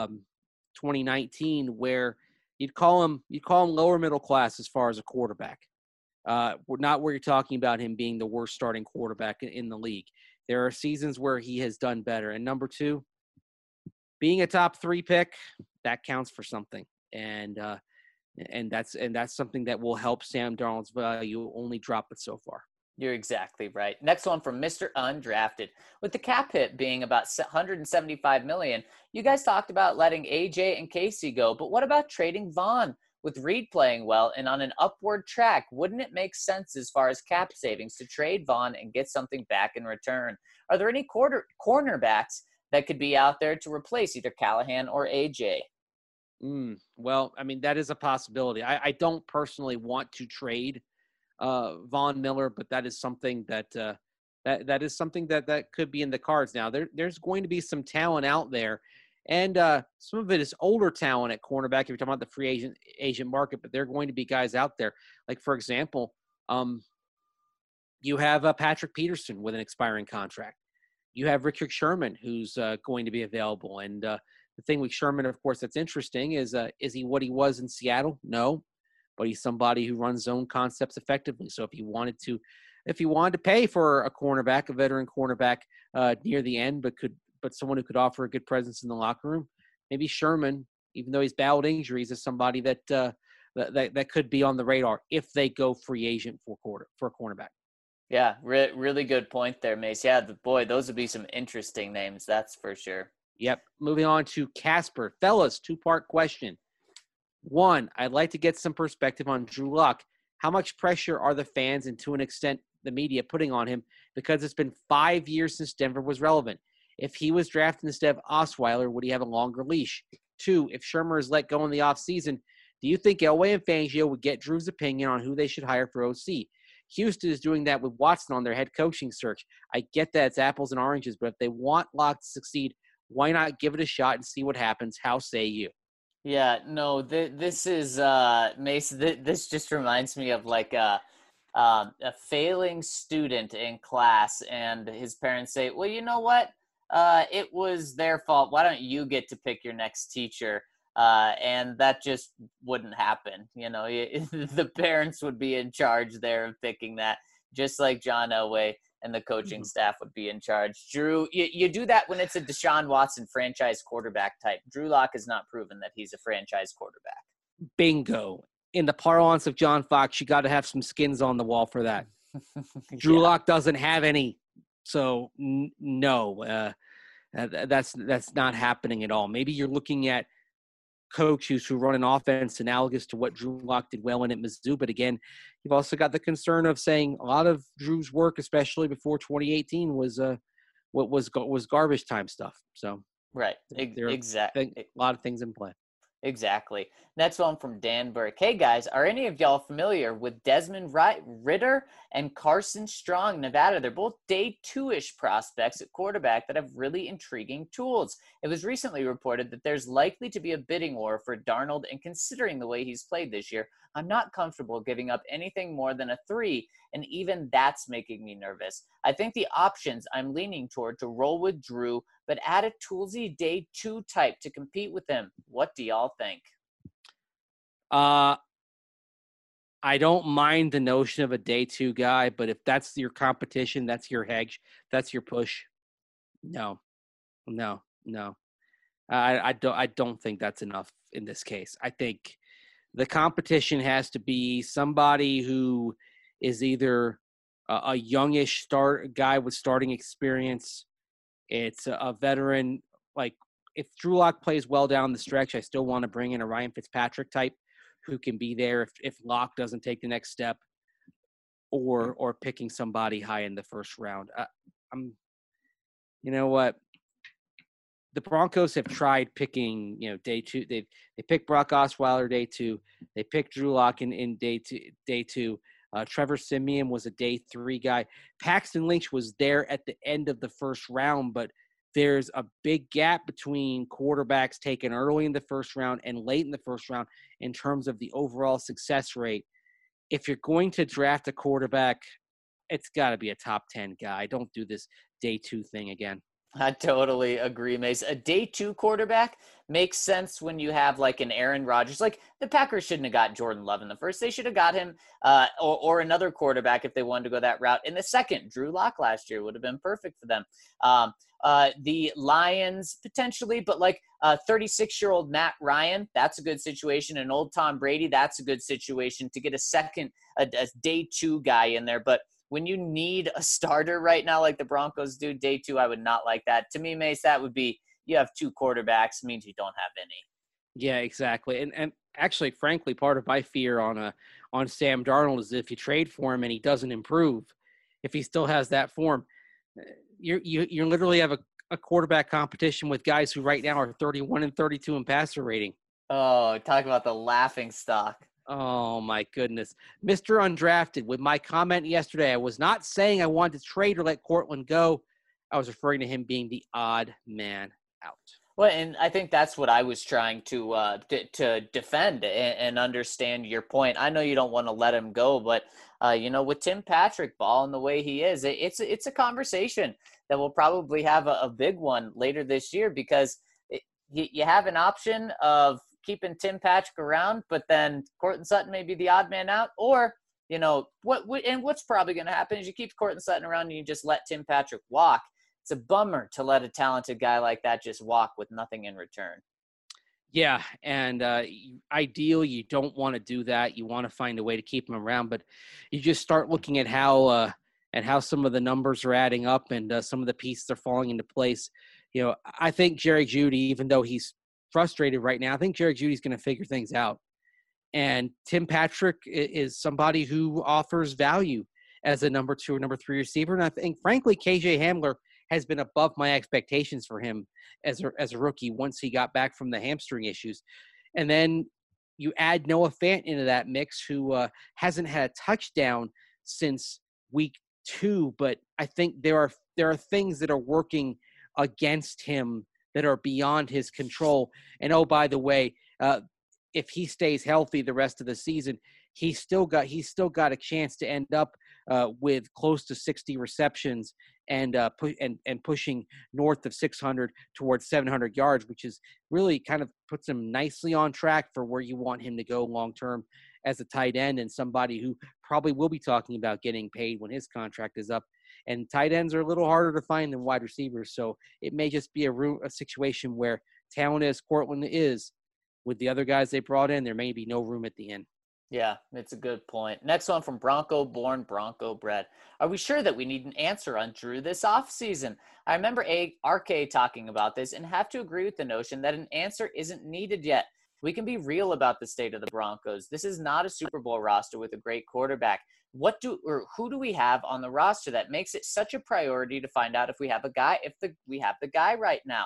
2019, where you'd call him lower middle class as far as a quarterback. Not where you're talking about him being the worst starting quarterback in the league. There are seasons where he has done better. And number two, being a top 3 pick, that counts for something. And that's something that will help Sam Darnold's value only drop it so far. You're exactly right. Next one from Mr. Undrafted. With the cap hit being about $175 million, you guys talked about letting AJ and Casey go, but what about trading Vaughn? With Reed playing well and on an upward track, wouldn't it make sense as far as cap savings to trade Vaughn and get something back in return? Are there any cornerbacks that could be out there to replace either Callahan or AJ? Well, I mean, that is a possibility. I don't personally want to trade Von Miller, but that is something that is something that could be in the cards. Now, there's going to be some talent out there, and some of it is older talent at cornerback if you're talking about the free agent market, but there are going to be guys out there. Like, for example, you have Patrick Peterson with an expiring contract. You have Richard Sherman, who's going to be available, and the thing with Sherman, of course, that's interesting is he what he was in Seattle? No, but he's somebody who runs zone concepts effectively. So if you wanted to pay for a cornerback, a veteran cornerback near the end, but someone who could offer a good presence in the locker room, maybe Sherman, even though he's battled injuries, is somebody that could be on the radar if they go free agent for a cornerback. Yeah, really good point there, Mace. Yeah, those would be some interesting names, that's for sure. Yep. Moving on to Casper. Fellas, 2-part question. 1, I'd like to get some perspective on Drew Lock. How much pressure are the fans and, to an extent, the media putting on him because it's been 5 years since Denver was relevant? If he was drafted instead of Osweiler, would he have a longer leash? 2, if Shermer is let go in the offseason, do you think Elway and Fangio would get Drew's opinion on who they should hire for OC? Houston is doing that with Watson on their head coaching search. I get that it's apples and oranges, but if they want Lock to succeed, why not give it a shot and see what happens? How say you? Yeah, no, this is Mace. This just reminds me of like a failing student in class, and his parents say, "Well, you know what? It was their fault. Why don't you get to pick your next teacher?" And that just wouldn't happen. The parents would be in charge there of picking that, just like John Elway and the coaching staff would be in charge. Drew, you do that when it's a Deshaun Watson franchise quarterback type. Drew Lock has not proven that he's a franchise quarterback. Bingo. In the parlance of John Fox, you got to have some skins on the wall for that. Drew Lock doesn't have any, so no, that's not happening at all. Maybe you're looking at coaches who run an offense analogous to what Drew Lock did well in at Mizzou. But again, you've also got the concern of saying a lot of Drew's work, especially before 2018, was garbage time stuff. So right, exactly, a lot of things in play. Exactly. Next one from Dan Burke. Hey guys, are any of y'all familiar with Desmond Ritter and Carson Strong, Nevada? They're both day two-ish prospects at quarterback that have really intriguing tools. It was recently reported that there's likely to be a bidding war for Darnold, and considering the way he's played this year, I'm not comfortable giving up anything more than a 3, and even that's making me nervous. I think the options I'm leaning toward to roll with Drew, but add a toolsy day 2 type to compete with him. What do y'all think? I don't mind the notion of a day 2 guy, but if that's your competition, that's your hedge, that's your push. No. I don't think that's enough in this case. I think the competition has to be somebody who is either a youngish guy with starting experience. It's a veteran. Like, if Drew Lock plays well down the stretch, I still want to bring in a Ryan Fitzpatrick type who can be there if Lock doesn't take the next step, or picking somebody high in the first round. You know what? The Broncos have tried picking, day 2. They picked Brock Osweiler day 2. They picked Drew Lock in day 2. Trevor Siemian was a day 3 guy. Paxton Lynch was there at the end of the first round, but there's a big gap between quarterbacks taken early in the first round and late in the first round in terms of the overall success rate. If you're going to draft a quarterback, it's got to be a top 10 guy. Don't do this day 2 thing again. I totally agree, Mace. A day 2 quarterback makes sense when you have like an Aaron Rodgers. Like, the Packers shouldn't have got Jordan Love in the first. They should have got him or another quarterback if they wanted to go that route. In the second, Drew Lock last year would have been perfect for them. The Lions potentially, but like 36-year-old Matt Ryan, that's a good situation. And old Tom Brady, that's a good situation to get a day 2 guy in there. But when you need a starter right now, like the Broncos do, day 2, I would not like that. To me, Mace, that would be, you have 2 quarterbacks, means you don't have any. Yeah, exactly. And actually, frankly, part of my fear on Sam Darnold is if you trade for him and he doesn't improve, if he still has that form, you literally have a quarterback competition with guys who right now are 31 and 32 in passer rating. Oh, talk about the laughing stock. Oh, my goodness. Mr. Undrafted, with my comment yesterday, I was not saying I wanted to trade or let Courtland go. I was referring to him being the odd man out. Well, and I think that's what I was trying to defend and understand your point. I know you don't want to let him go, but with Tim Patrick balling the way he is, it's a conversation that we'll probably have a big one later this year, because you have an option of keeping Tim Patrick around, but then Courtland Sutton may be the odd man out, or what's probably going to happen is you keep Courtland Sutton around and you just let Tim Patrick walk. It's a bummer to let a talented guy like that just walk with nothing in return. Yeah, and ideally, you don't want to do that. You want to find a way to keep him around, but you just start looking at how some of the numbers are adding up and some of the pieces are falling into place. I think Jerry Jeudy, even though he's frustrated right now, I think Jerry Judy's going to figure things out. And Tim Patrick is somebody who offers value as a number 2 or number 3 receiver. And I think, frankly, KJ Hamler has been above my expectations for him as a rookie once he got back from the hamstring issues. And then you add Noah Fant into that mix, who hasn't had a touchdown since week 2, but I think there are things that are working against him that are beyond his control. And oh, by the way, if he stays healthy the rest of the season, he's still got a chance to end up with close to 60 receptions and pushing north of 600 towards 700 yards, which is really kind of puts him nicely on track for where you want him to go long term as a tight end, and somebody who probably will be talking about getting paid when his contract is up. And tight ends are a little harder to find than wide receivers, so it may just be a situation where talent as Courtland is, with the other guys they brought in, there may be no room at the end. Yeah, it's a good point. Next one from Bronco Born, Bronco Bred. Are we sure that we need an answer on Drew this offseason? I remember RK talking about this and have to agree with the notion that an answer isn't needed yet. We can be real about the state of the Broncos. This is not a Super Bowl roster with a great quarterback. Who do we have on the roster that makes it such a priority to find out if we have a guy, we have the guy right now?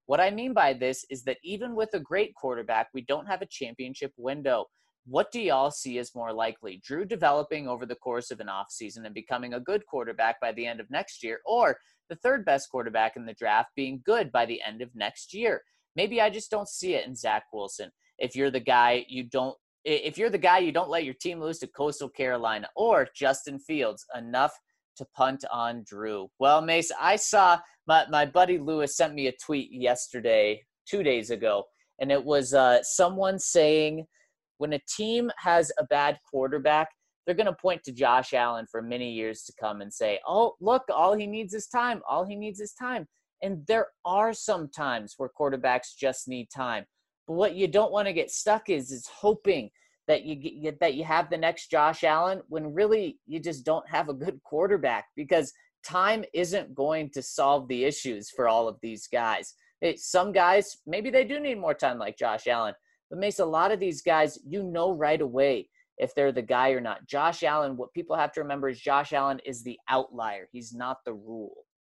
What I mean by this is that even with a great quarterback, we don't have a championship window. What do y'all see as more likely? Drew developing over the course of an offseason and becoming a good quarterback by the end of next year, or the third best quarterback in the draft being good by the end of next year? Maybe I just don't see it in Zach Wilson. If you're the guy, you don't let your team lose to Coastal Carolina, or Justin Fields, enough to punt on Drew. Well, Mace, I saw my buddy Lewis sent me a tweet yesterday, 2 days ago, and it was someone saying when a team has a bad quarterback, they're going to point to Josh Allen for many years to come and say, oh, look, all he needs is time. All he needs is time. And there are some times where quarterbacks just need time. But what you don't want to get stuck is hoping that you have the next Josh Allen when really you just don't have a good quarterback, because time isn't going to solve the issues for all of these guys. Some guys, maybe they do need more time like Josh Allen, but Mace, a lot of these guys, right away if they're the guy or not. Josh Allen, what people have to remember is Josh Allen is the outlier. He's not the rule.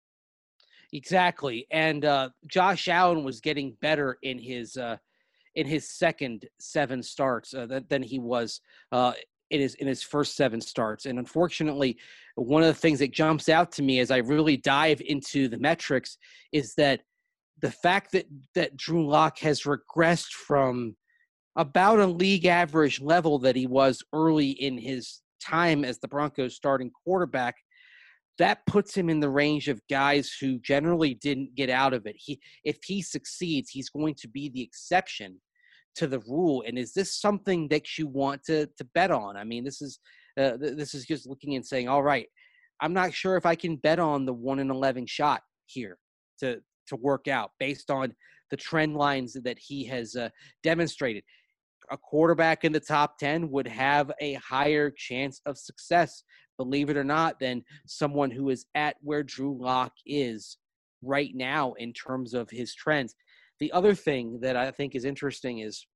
Exactly. And Josh Allen was getting better in his second 7 starts than he was in his first 7 starts. And unfortunately, one of the things that jumps out to me as I really dive into the metrics is that the fact that Drew Lock has regressed from about a league average level that he was early in his time as the Broncos starting quarterback, that puts him in the range of guys who generally didn't get out of it. If he succeeds, he's going to be the exception to the rule. And is this something that you want to bet on? I mean, this is just looking and saying, all right, I'm not sure if I can bet on the 1 in 11 shot here to work out based on the trend lines that he has demonstrated. A quarterback in the top 10 would have a higher chance of success, believe it or not, than someone who is at where Drew Lock is right now in terms of his trends. The other thing that I think is interesting is,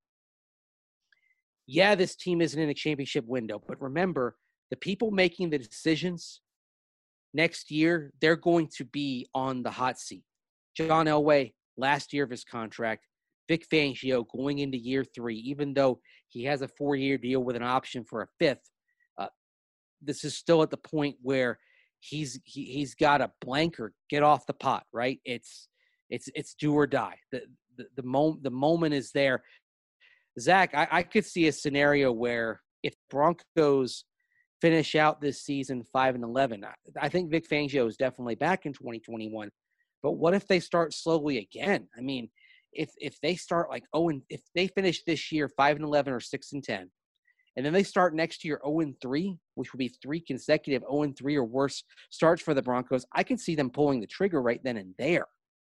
yeah, this team isn't in a championship window, but remember, the people making the decisions next year, they're going to be on the hot seat. John Elway, last year of his contract. Vic Fangio going into year 3, even though he has a 4-year deal with an option for a 5th. This is still at the point where he's got a blanker, get off the pot, right? It's do or die. The moment is there. Zach, I could see a scenario where if Broncos finish out this season 5-11, I think Vic Fangio is definitely back in 2021. But what if they start slowly again? I mean, if they start like if they finish this year 5-11 or 6-10, and then they start next year 0-3, which would be 3 consecutive 0-3 or worse starts for the Broncos, I can see them pulling the trigger right then and there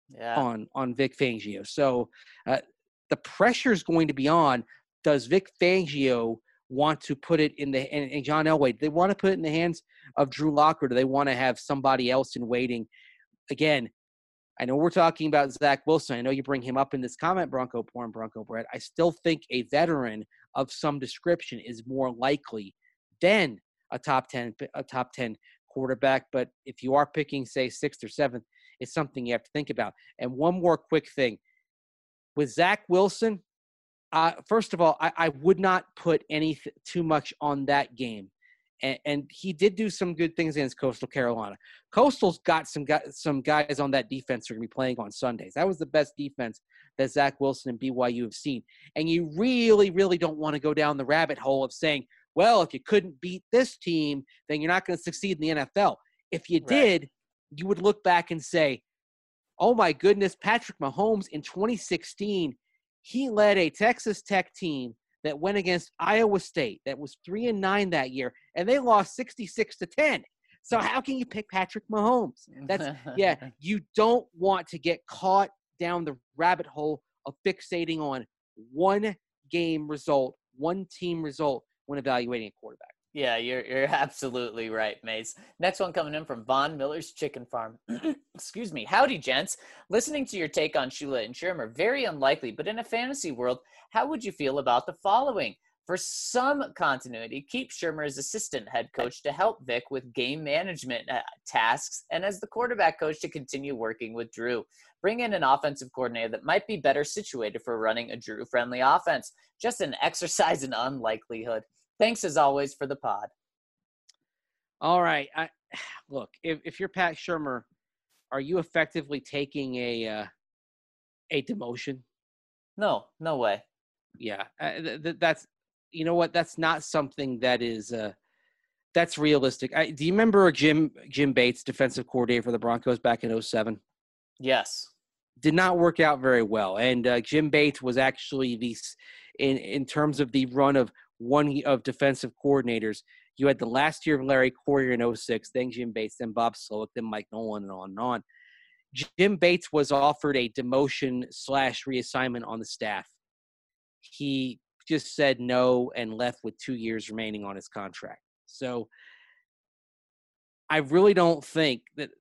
on Vic Fangio. So the pressure is going to be on. Does Vic Fangio want to put it in and John Elway, do they want to put it in the hands of Drew Lock, or do they want to have somebody else in waiting? Again, I know we're talking about Zach Wilson. I know you bring him up in this comment, Bronco Porn, Bronco Bread. I still think a veteran of some description is more likely than a top 10 quarterback. But if you are picking, say, 6th or 7th, it's something you have to think about. And one more quick thing. With Zach Wilson, first of all, I would not put too much on that game. And he did do some good things against Coastal Carolina. Coastal's got some guys on that defense who are going to be playing on Sundays. That was the best defense that Zach Wilson and BYU have seen. And you really, really don't want to go down the rabbit hole of saying, well, if you couldn't beat this team, then you're not going to succeed in the NFL. If you did, you would look back and say, oh, my goodness, Patrick Mahomes in 2016, he led a Texas Tech team that went against Iowa State that was 3-9 that year, and they lost 66-10. So how can you pick Patrick Mahomes? You don't want to get caught down the rabbit hole of fixating on one game result, one team result when evaluating a quarterback. Yeah, you're absolutely right, Mace. Next one coming in from Von Miller's Chicken Farm. Excuse me. Howdy, gents. Listening to your take on Shula and Shermer, very unlikely, but in a fantasy world, how would you feel about the following? For some continuity, keep Shermer as assistant head coach to help Vic with game management tasks and as the quarterback coach to continue working with Drew. Bring in an offensive coordinator that might be better situated for running a Drew-friendly offense. Just an exercise in unlikelihood. Thanks as always for the pod. All right. Look, if you're Pat Shermer, are you effectively taking a demotion? No way. Yeah, that's, you know what? That's not something that is that's realistic. Do you remember Jim Bates, defensive coordinator for the Broncos back in 2007? Yes. Did not work out very well, and Jim Bates was actually in terms of the run of one of defensive coordinators. You had the last year of Larry Coyer in 2006, then Jim Bates, then Bob Slowick, then Mike Nolan, and on and on. Jim Bates was offered a demotion / reassignment on the staff. He just said no and left with 2 years remaining on his contract. So I really don't think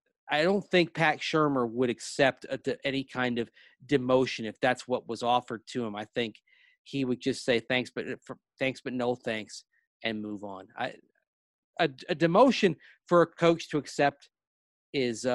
Pat Shermer would accept any kind of demotion if that's what was offered to him. I think he would just say thanks, but no thanks, and move on. A demotion for a coach to accept is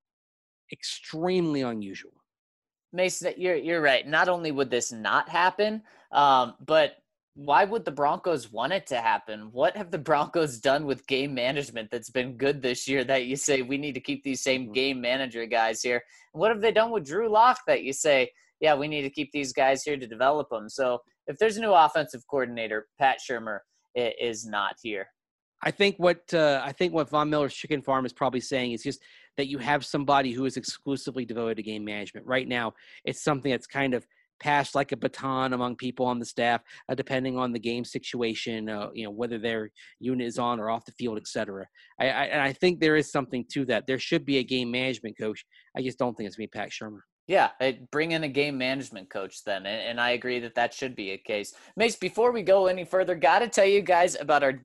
extremely unusual. Mason, you're right. Not only would this not happen, but why would the Broncos want it to happen? What have the Broncos done with game management that's been good this year that you say we need to keep these same game manager guys here? What have they done with Drew Lock that you say, yeah, we need to keep these guys here to develop them? So if there's a new offensive coordinator, Pat Shermer is not here. I think what Von Miller's Chicken Farm is probably saying is just that you have somebody who is exclusively devoted to game management. Right now, it's something that's kind of passed like a baton among people on the staff, depending on the game situation, whether their unit is on or off the field, et cetera. I think there is something to that. There should be a game management coach. I just don't think it's going to be Pat Shermer. Yeah, bring in a game management coach then, and I agree that should be a case. Mace, before we go any further, got to tell you guys about our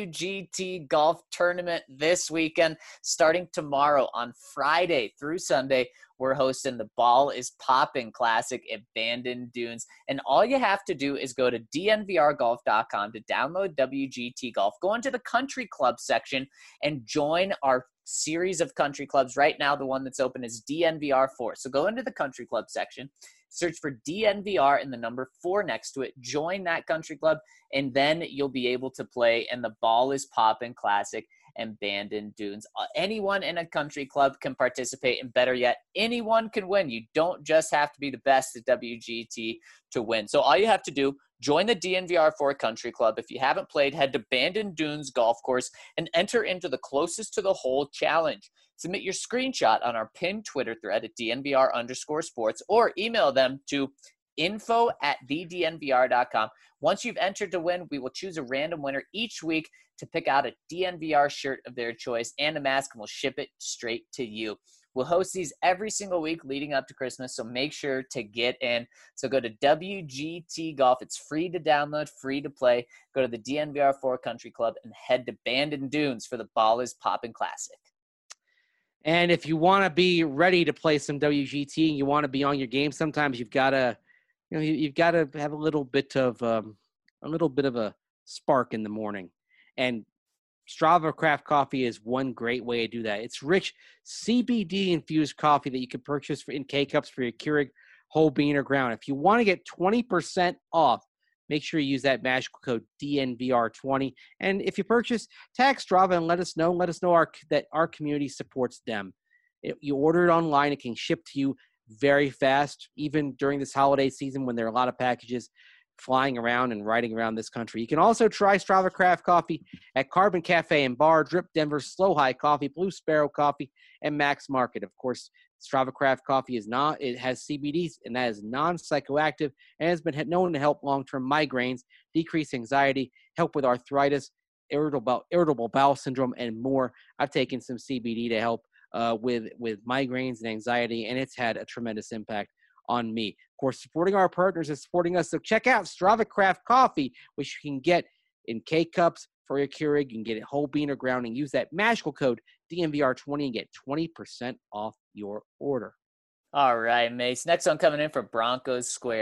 WGT golf tournament this weekend, starting tomorrow on Friday through Sunday. We're hosting the Ball is Poppin' Classic at Bandon Dunes, and all you have to do is go to dnvrgolf.com to download WGT Golf, go into the country club section, and join our series of country clubs. Right now, the one that's open is DNVR4. So go into the country club section, search for DNVR and the number 4 next to it, join that country club, and then you'll be able to play in the Ball is Poppin' Classic and Bandon Dunes. Anyone in a country club can participate, and better yet, anyone can win. You don't just have to be the best at WGT to win. So all you have to do, join the DNVR4 Country Club. If you haven't played, head to Bandon Dunes Golf Course and enter into the closest to the hole challenge. Submit your screenshot on our pinned Twitter thread at DNVR_sports or email them to info@thednvr.com. Once you've entered to win, we will choose a random winner each week to pick out a DNVR shirt of their choice and a mask, and we'll ship it straight to you. We'll host these every single week leading up to Christmas, so make sure to get in. So go to WGT Golf. It's free to download, free to play. Go to the DNVR4 Country Club and head to Bandon Dunes for the Ball is Poppin' Classic. And if you want to be ready to play some WGT and you want to be on your game, sometimes you've got to, you've got to have a little bit of a spark in the morning. And Strava Craft Coffee is one great way to do that. It's rich CBD-infused coffee that you can purchase in K-Cups for your Keurig whole bean or ground. If you want to get 20% off, make sure you use that magical code DNVR20. And if you purchase, tag Strava and let us know that our community supports them. You order it online, it can ship to you very fast, even during this holiday season when there are a lot of packages flying around and riding around this country. You can also try Strava Craft Coffee at Carbon Cafe and Bar, Drip Denver, Slow High Coffee, Blue Sparrow Coffee, and Max Market. Of course, Strava Craft Coffee it has CBDs, and that is non-psychoactive and has been known to help long-term migraines, decrease anxiety, help with arthritis, irritable bowel syndrome, and more. I've taken some CBD to help with migraines and anxiety, and it's had a tremendous impact on me. Of course, supporting our partners is supporting us. So check out Strava Craft Coffee, which you can get in K-Cups for your Keurig. You can get it whole bean or ground and use that magical code DNVR20 and get 20% off your order. All right, Mace. Next one coming in for Broncos Squared.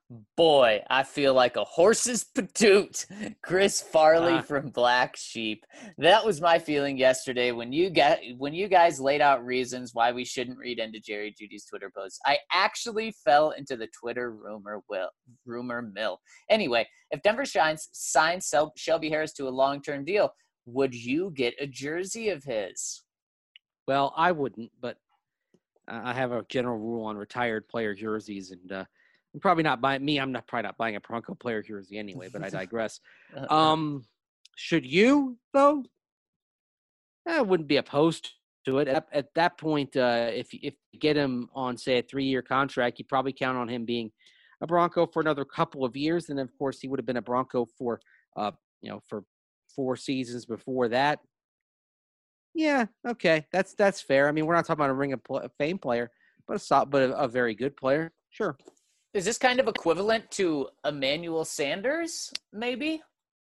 Boy, I feel like a horse's patoot. Chris Farley from Black Sheep. That was my feeling yesterday when you guys laid out reasons why we shouldn't read into Jerry Jeudy's Twitter posts. I actually fell into the Twitter rumor mill. Anyway, if Denver signs Shelby Harris to a long-term deal, would you get a jersey of his? Well, I wouldn't, but I have a general rule on retired player jerseys, and I'm probably not buying I'm probably not buying a Bronco player jersey anyway, but I digress. Should you, though? I wouldn't be opposed to it. At that point, if you get him on, say, a 3-year contract, you probably count on him being a Bronco for another couple of years. And, of course, he would have been a Bronco for 4 seasons before that. Yeah, okay, that's fair. I mean, we're not talking about a Ring of Fame player, but a very good player. Sure. Is this kind of equivalent to Emmanuel Sanders, maybe?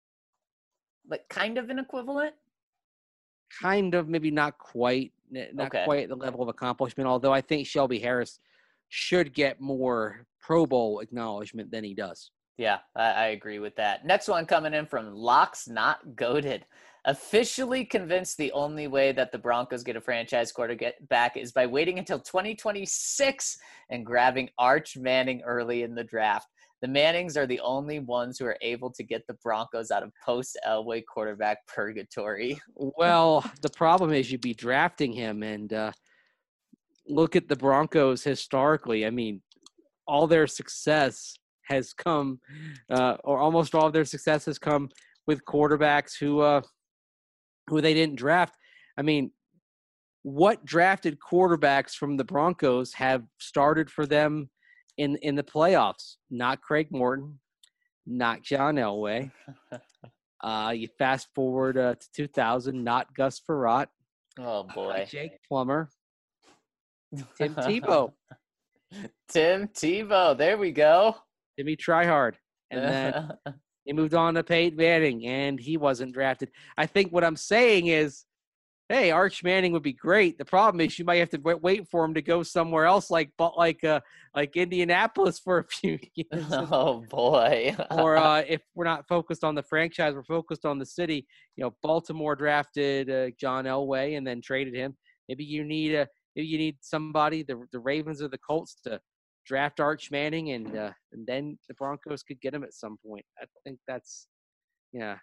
Like kind of an equivalent? Kind of, maybe not quite. Not quite the level of accomplishment, although I think Shelby Harris should get more Pro Bowl acknowledgement than he does. Yeah, I agree with that. Next one coming in from Locks Not Goated. Officially convinced the only way that the Broncos get a franchise quarterback is by waiting until 2026 and grabbing Arch Manning early in the draft. The Mannings are the only ones who are able to get the Broncos out of post-Elway quarterback purgatory. Well, the problem is you'd be drafting him, and look at the Broncos historically. I mean, all their success has come, or almost all of their success has come with quarterbacks who they didn't draft. I mean, what drafted quarterbacks from the Broncos have started for them in the playoffs? Not Craig Morton, not John Elway. You fast forward to 2000, not Gus Frerotte. Oh, boy. Jake Plummer. Tim Tebow. Tim Tebow. There we go. Timmy Tryhard. And then he moved on to Peyton Manning, and he wasn't drafted. I think what I'm saying is, hey, Arch Manning would be great. The problem is you might have to wait for him to go somewhere else, like Indianapolis for a few years. Oh, boy. Or if we're not focused on the franchise, we're focused on the city. Baltimore drafted John Elway and then traded him. Maybe you need somebody, the Ravens or the Colts, to draft Arch Manning, and then the Broncos could get him at some point. I think that's, yeah.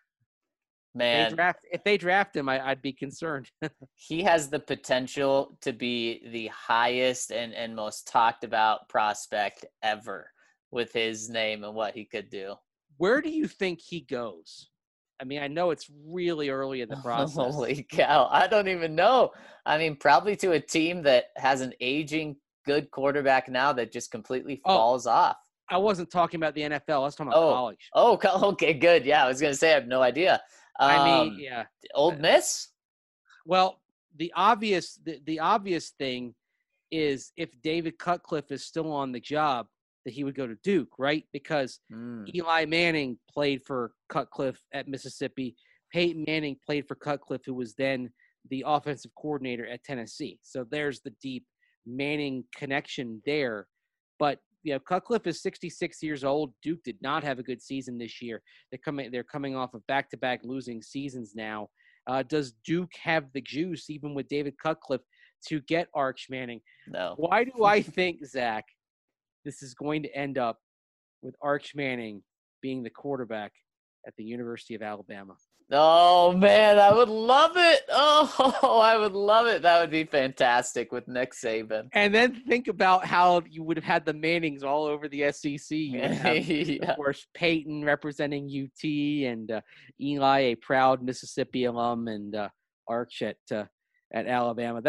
Man, if they draft him, I'd be concerned. He has the potential to be the highest and most talked about prospect ever with his name and what he could do. Where do you think he goes? I mean, I know it's really early in the process. Holy cow. I don't even know. I mean, probably to a team that has an aging good quarterback now that just completely falls off. I wasn't talking about the NFL. I was talking about college. Oh, okay, good. Yeah, I was going to say I have no idea. Yeah. Ole Miss? Well, the obvious thing is if David Cutcliffe is still on the job, that he would go to Duke, right? Because Eli Manning played for Cutcliffe at Mississippi. Peyton Manning played for Cutcliffe, who was then the offensive coordinator at Tennessee. So there's the deep Manning connection there. But Cutcliffe is 66 years old. Duke did not have a good season this year. They're coming off of back-to-back losing seasons now. Does Duke have the juice, even with David Cutcliffe, to get Arch Manning? No. Why do I think, Zach, this is going to end up with Arch Manning being the quarterback at the University of Alabama? Oh, man, I would love it. Oh, I would love it. That would be fantastic with Nick Saban. And then think about how you would have had the Mannings all over the SEC. You would have, of course, Peyton representing UT, and Eli, a proud Mississippi alum, and Arch at Alabama.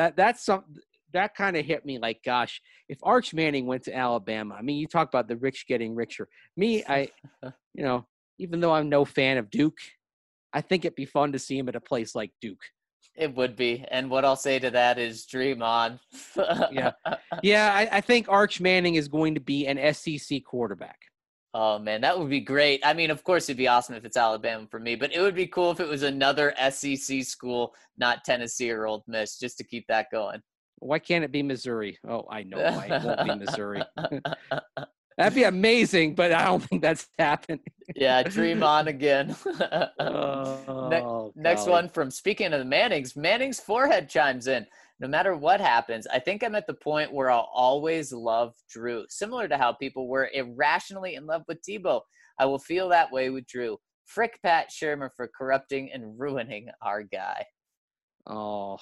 That kind of hit me like, gosh, if Arch Manning went to Alabama, I mean, you talk about the rich getting richer. Me, even though I'm no fan of Duke, I think it'd be fun to see him at a place like Duke. It would be. And what I'll say to that is dream on. Yeah, I think Arch Manning is going to be an SEC quarterback. Oh, man, that would be great. I mean, of course, it'd be awesome if it's Alabama for me, but it would be cool if it was another SEC school, not Tennessee or Ole Miss, just to keep that going. Why can't it be Missouri? Oh, I know why. It won't be Missouri. That'd be amazing, but I don't think that's happening. Yeah, dream on again. Oh, Next golly. one from, speaking of the Manning's forehead chimes in. No matter what happens, I think I'm at the point where I'll always love Drew. Similar to how people were irrationally in love with Tebow, I will feel that way with Drew. Frick Pat Shermer for corrupting and ruining our guy. Oh,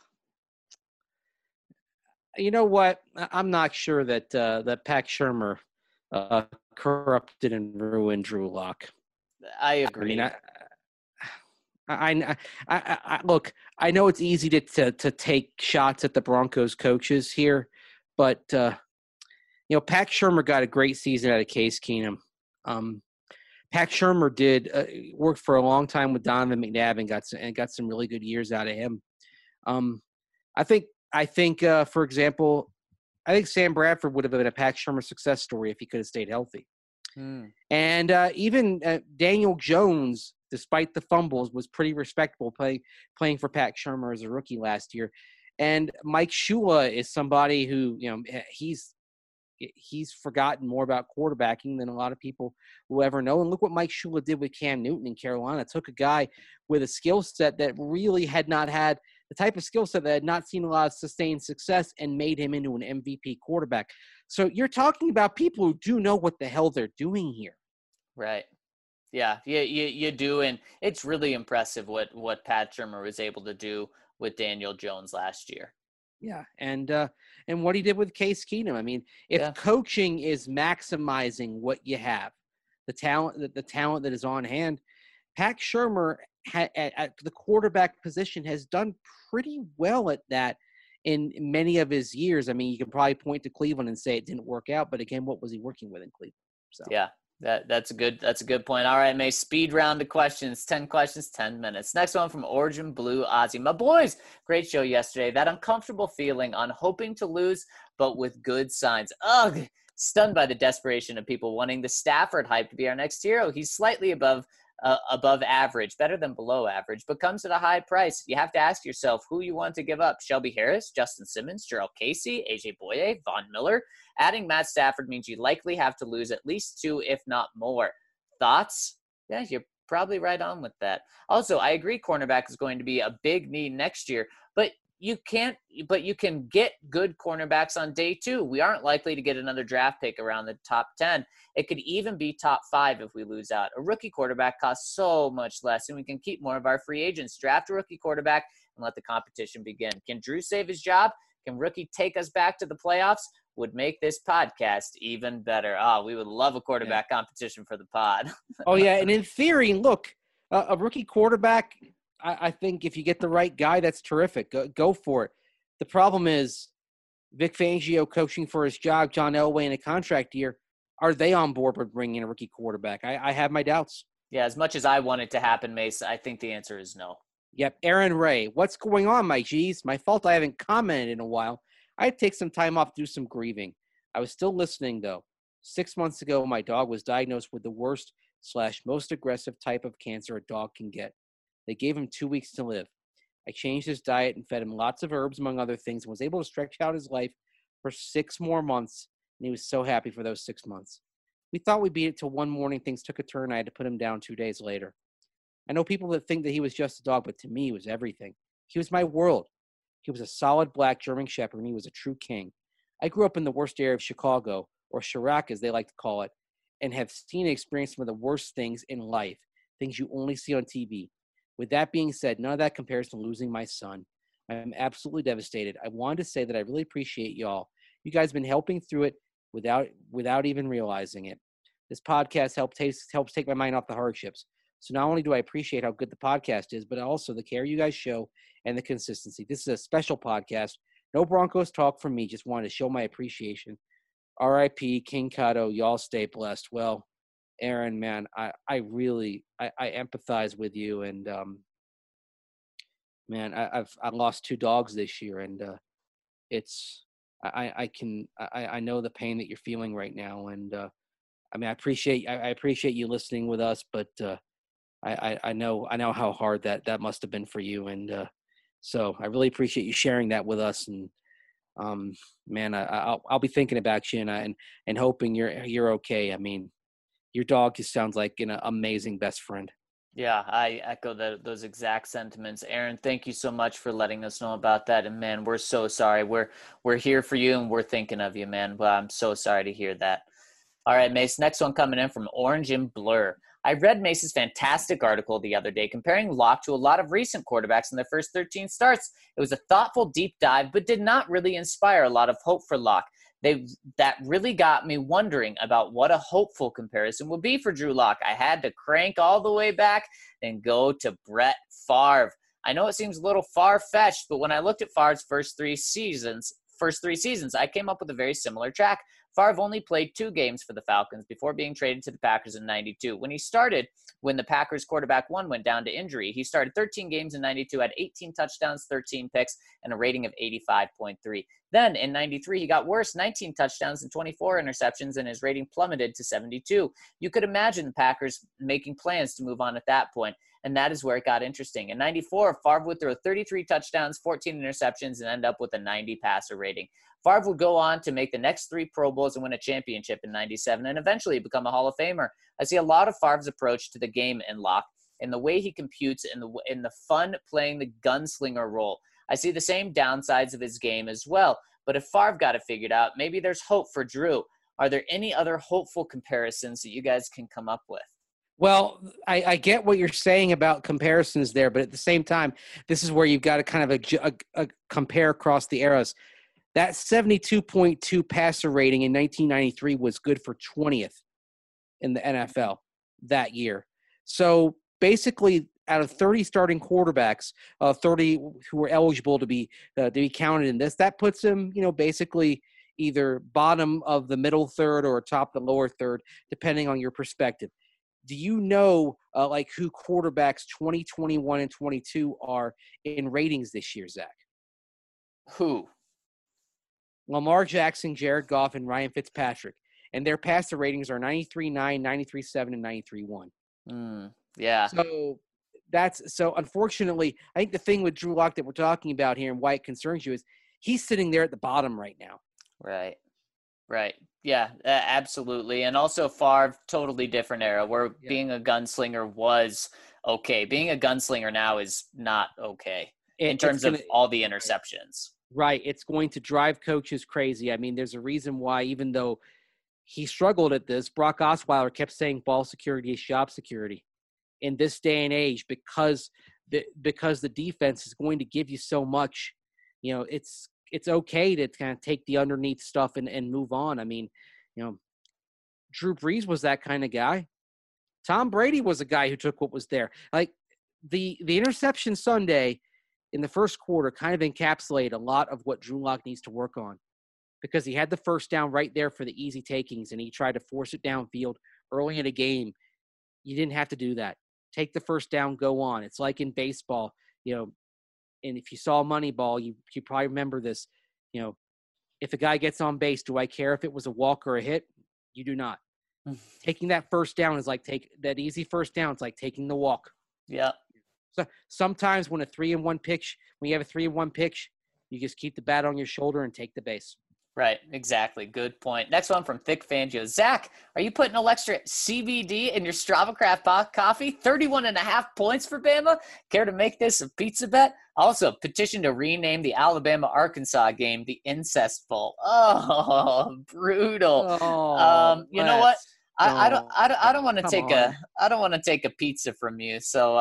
you know what? I'm not sure that that Pat Shermer corrupted and ruined Drew Lock. I I agree. mean, look. I know it's easy to take shots at the Broncos coaches here, but Pat Shermer got a great season out of Case Keenum. Pat Shermer did work for a long time with Donovan McNabb and got some really good years out of him. I think, for example, I think Sam Bradford would have been a Pat Shermer success story if he could have stayed healthy. And even Daniel Jones, despite the fumbles, was pretty respectable playing for Pat Shermer as a rookie last year. And Mike Shula is somebody who, he's forgotten more about quarterbacking than a lot of people will ever know. And look what Mike Shula did with Cam Newton in Carolina. Took a guy with a skill set that really had not had the type of skill set that had not seen a lot of sustained success and made him into an MVP quarterback. So you're talking about people who do know what the hell they're doing here. Right. Yeah, you do. And it's really impressive what Pat Shermer was able to do with Daniel Jones last year. Yeah, and what he did with Case Keenum. I mean, if coaching is maximizing what you have, the talent that is on hand, Pat Shermer at the quarterback position has done pretty well at that in many of his years. I mean, you can probably point to Cleveland and say it didn't work out, but again, what was he working with in Cleveland? So yeah. That's a good point. All right, May, speed round of questions. 10 questions, 10 minutes. Next one from Origin Blue Ozzy. My boys, great show yesterday. That uncomfortable feeling on hoping to lose, but with good signs. Ugh, stunned by the desperation of people wanting the Stafford hype to be our next hero. He's slightly above average, better than below average, but comes at a high price. You have to ask yourself who you want to give up. Shelby Harris, Justin Simmons, Gerald Casey, AJ Boye, Von Miller. Adding Matt Stafford means you likely have to lose at least 2, if not more. Thoughts? Yeah, you're probably right on with that. Also, I agree cornerback is going to be a big need next year, but you can get good cornerbacks on day 2. We aren't likely to get another draft pick around the top 10. It could even be top 5 if we lose out. A rookie quarterback costs so much less, and we can keep more of our free agents. Draft a rookie quarterback and let the competition begin. Can Drew save his job? Can rookie take us back to the playoffs? Would make this podcast even better. Oh, we would love a quarterback competition for the pod. Oh, yeah, and in theory, look, a rookie quarterback, I think if you get the right guy, that's terrific. Go for it. The problem is Vic Fangio coaching for his job, John Elway in a contract year. Are they on board with bringing in a rookie quarterback? I have my doubts. Yeah, as much as I want it to happen, Mace, I think the answer is no. Yep. Aaron Ray, what's going on, my G's? My fault I haven't commented in a while. I'd take some time off to do some grieving. I was still listening, though. 6 months ago, my dog was diagnosed with the worst/most aggressive type of cancer a dog can get. They gave him 2 weeks to live. I changed his diet and fed him lots of herbs, among other things, and was able to stretch out his life for 6 more months, and he was so happy for those 6 months. We thought we'd beat it till one morning things took a turn. I had to put him down 2 days later. I know people that think that he was just a dog, but to me, he was everything. He was my world. He was a solid black German Shepherd, and he was a true king. I grew up in the worst area of Chicago, or Chirac as they like to call it, and have seen and experienced some of the worst things in life, things you only see on TV. With that being said, none of that compares to losing my son. I'm absolutely devastated. I wanted to say that I really appreciate y'all. You guys have been helping through it without even realizing it. This podcast helps take my mind off the hardships. So not only do I appreciate how good the podcast is, but also the care you guys show and the consistency. This is a special podcast. No Broncos talk from me. Just wanted to show my appreciation. R.I.P. King Kato. Y'all stay blessed. Well, Aaron, man, I really empathize with you. And, man, I lost 2 dogs this year. And I know the pain that you're feeling right now. And, I mean, I appreciate you listening with us, but I know how hard that must have been for you, and so I really appreciate you sharing that with us. And Man, I'll be thinking about you and hoping you're okay. I mean, your dog just sounds like an amazing best friend. Yeah, I echo those exact sentiments. Aaron, thank you so much for letting us know about that. And man, we're so sorry. We're here for you and we're thinking of you, man. But I'm so sorry to hear that. All right, Mace, next one coming in from Orange and Blur. I read Mace's fantastic article the other day comparing Locke to a lot of recent quarterbacks in their first 13 starts. It was a thoughtful deep dive, but did not really inspire a lot of hope for Locke. That really got me wondering about what a hopeful comparison would be for Drew Lock. I had to crank all the way back and go to Brett Favre. I know it seems a little far-fetched, but when I looked at Favre's first three seasons, I came up with a very similar track. Favre only played 2 games for the Falcons before being traded to the Packers in 92. When the Packers quarterback 1 went down to injury, he started 13 games in 92, had 18 touchdowns, 13 picks, and a rating of 85.3. Then in 93, he got worse, 19 touchdowns and 24 interceptions, and his rating plummeted to 72. You could imagine the Packers making plans to move on at that point, and that is where it got interesting. In 94, Favre would throw 33 touchdowns, 14 interceptions, and end up with a 90 passer rating. Favre would go on to make the next 3 Pro Bowls and win a championship in 97 and eventually become a Hall of Famer. I see a lot of Favre's approach to the game in Locke, in the way he computes, in the fun playing the gunslinger role. I see the same downsides of his game as well. But if Favre got it figured out, maybe there's hope for Drew. Are there any other hopeful comparisons that you guys can come up with? Well, I get what you're saying about comparisons there, but at the same time, this is where you've got to kind of a compare across the eras. That 72.2 passer rating in 1993 was good for 20th in the NFL that year. So basically, out of 30 starting quarterbacks, 30 who were eligible to be counted in this, that puts him, basically either bottom of the middle third or top the lower third, depending on your perspective. Do you know who quarterbacks 20, 21, and 22 are in ratings this year, Zach? Who? Lamar Jackson, Jared Goff, and Ryan Fitzpatrick. And their passer ratings are 93.9, 93.7, and 93.1. Yeah. So unfortunately, I think the thing with Drew Lock that we're talking about here and why it concerns you is he's sitting there at the bottom right now. Right. Yeah, absolutely. And also Favre, totally different era where being a gunslinger was okay. Being a gunslinger now is not okay in terms of all the interceptions. Right. It's going to drive coaches crazy. I mean, there's a reason why, even though he struggled at this, Brock Osweiler kept saying ball security is job security in this day and age, because the defense is going to give you so much. It's okay to kind of take the underneath stuff and move on. I mean, Drew Brees was that kind of guy. Tom Brady was a guy who took what was there. Like the interception Sunday in the first quarter kind of encapsulated a lot of what Drew Lock needs to work on, because he had the first down right there for the easy takings and he tried to force it downfield early in a game. You didn't have to do that. Take the first down, go on. It's like in baseball, and if you saw Moneyball, you probably remember this. If a guy gets on base, do I care if it was a walk or a hit? You do not. Taking that first down is like that easy first down. It's like taking the walk. Yeah. So sometimes when you have a 3-1 pitch, you just keep the bat on your shoulder and take the base. Right, exactly. Good point. Next one from Thick Fangio. Zach, are you putting extra CBD in your Strava Craft coffee? 31.5 points for Bama? Care to make this a pizza bet? Also, petition to rename the Alabama-Arkansas game the Incest Bowl. Oh, brutal. You know what? I don't want to take a pizza from you. So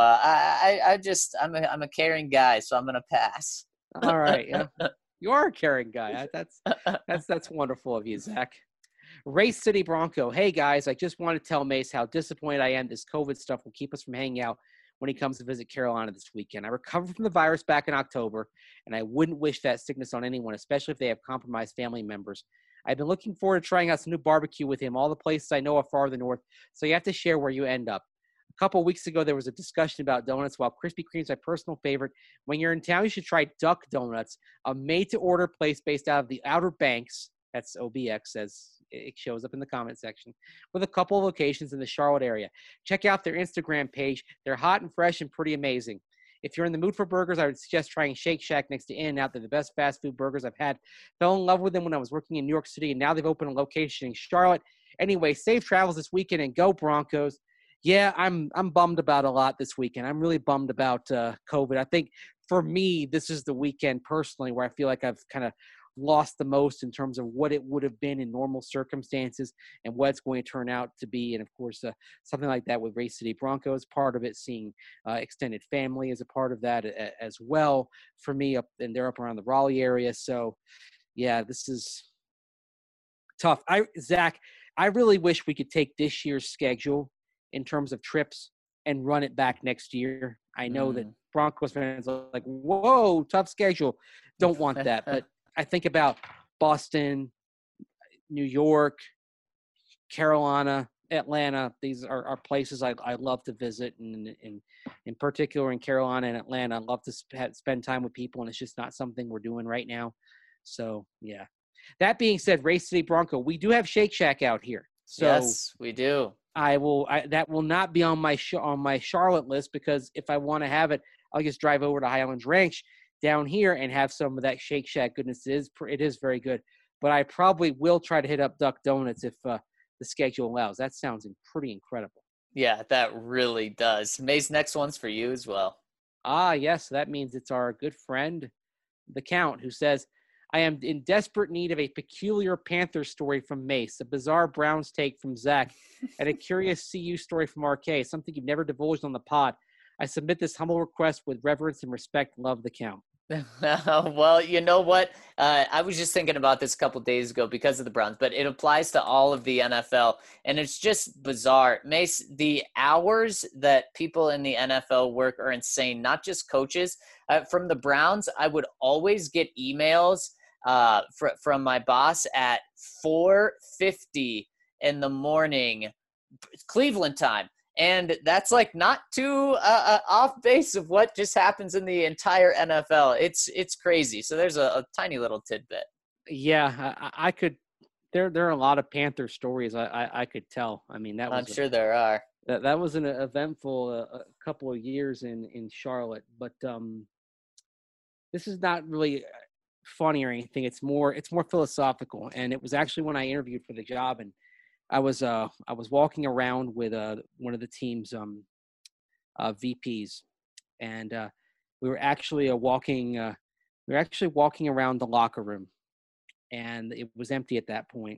I'm a caring guy, so I'm gonna pass. All right. Yeah. You are a caring guy. That's wonderful of you, Zach. Race City Bronco. Hey, guys, I just want to tell Mace how disappointed I am this COVID stuff will keep us from hanging out when he comes to visit Carolina this weekend. I recovered from the virus back in October, and I wouldn't wish that sickness on anyone, especially if they have compromised family members. I've been looking forward to trying out some new barbecue with him. All the places I know are farther north, so you have to share where you end up. A couple of weeks ago, there was a discussion about donuts. While Krispy Kreme is my personal favorite, when you're in town, you should try Duck Donuts, a made-to-order place based out of the Outer Banks. That's OBX, as it shows up in the comment section, with a couple of locations in the Charlotte area. Check out their Instagram page. They're hot and fresh and pretty amazing. If you're in the mood for burgers, I would suggest trying Shake Shack next to In-N-Out. They're the best fast food burgers I've had. Fell in love with them when I was working in New York City, and now they've opened a location in Charlotte. Anyway, safe travels this weekend, and go Broncos. Yeah, I'm bummed about a lot this weekend. I'm really bummed about COVID. I think for me, this is the weekend personally where I feel like I've kind of lost the most in terms of what it would have been in normal circumstances and what it's going to turn out to be. And of course, something like that with Race City Broncos, part of it, seeing extended family as a part of that as well for me and they're up around the Raleigh area. So yeah, this is tough. Zach, I really wish we could take this year's schedule in terms of trips and run it back next year. I know that Broncos fans are like, whoa, tough schedule. Don't want that. But I think about Boston, New York, Carolina, Atlanta. These are places I love to visit. And in particular in Carolina and Atlanta, I love to spend time with people, and it's just not something we're doing right now. So, yeah. That being said, Race City Bronco, we do have Shake Shack out here. So yes, we do. That will not be on my Charlotte list, because if I want to have it, I'll just drive over to Highlands Ranch down here and have some of that Shake Shack goodness. It is very good, but I probably will try to hit up Duck Donuts if the schedule allows. That sounds pretty incredible. Yeah, that really does. Mace, next one's for you as well. Yes, that means it's our good friend, the Count, who says, I am in desperate need of a peculiar Panther story from Mace, a bizarre Browns take from Zach, and a curious CU story from RK, something you've never divulged on the pod. I submit this humble request with reverence and respect. Love, the Count. Well, you know what? I was just thinking about this a couple days ago because of the Browns, but it applies to all of the NFL, and it's just bizarre. Mace, the hours that people in the NFL work are insane, not just coaches. From the Browns, I would always get emails from my boss at 4:50 in the morning, Cleveland time. And that's like not too off base of what just happens in the entire NFL. It's crazy. So there's a tiny little tidbit. Yeah, I could. There are a lot of Panther stories I could tell. I mean, I'm sure there are. That was an eventful couple of years in Charlotte. But this is not really funny or anything. It's more philosophical. And it was actually when I interviewed for the job, and I was walking around with one of the team's VPs, and we were actually walking around the locker room, and it was empty at that point.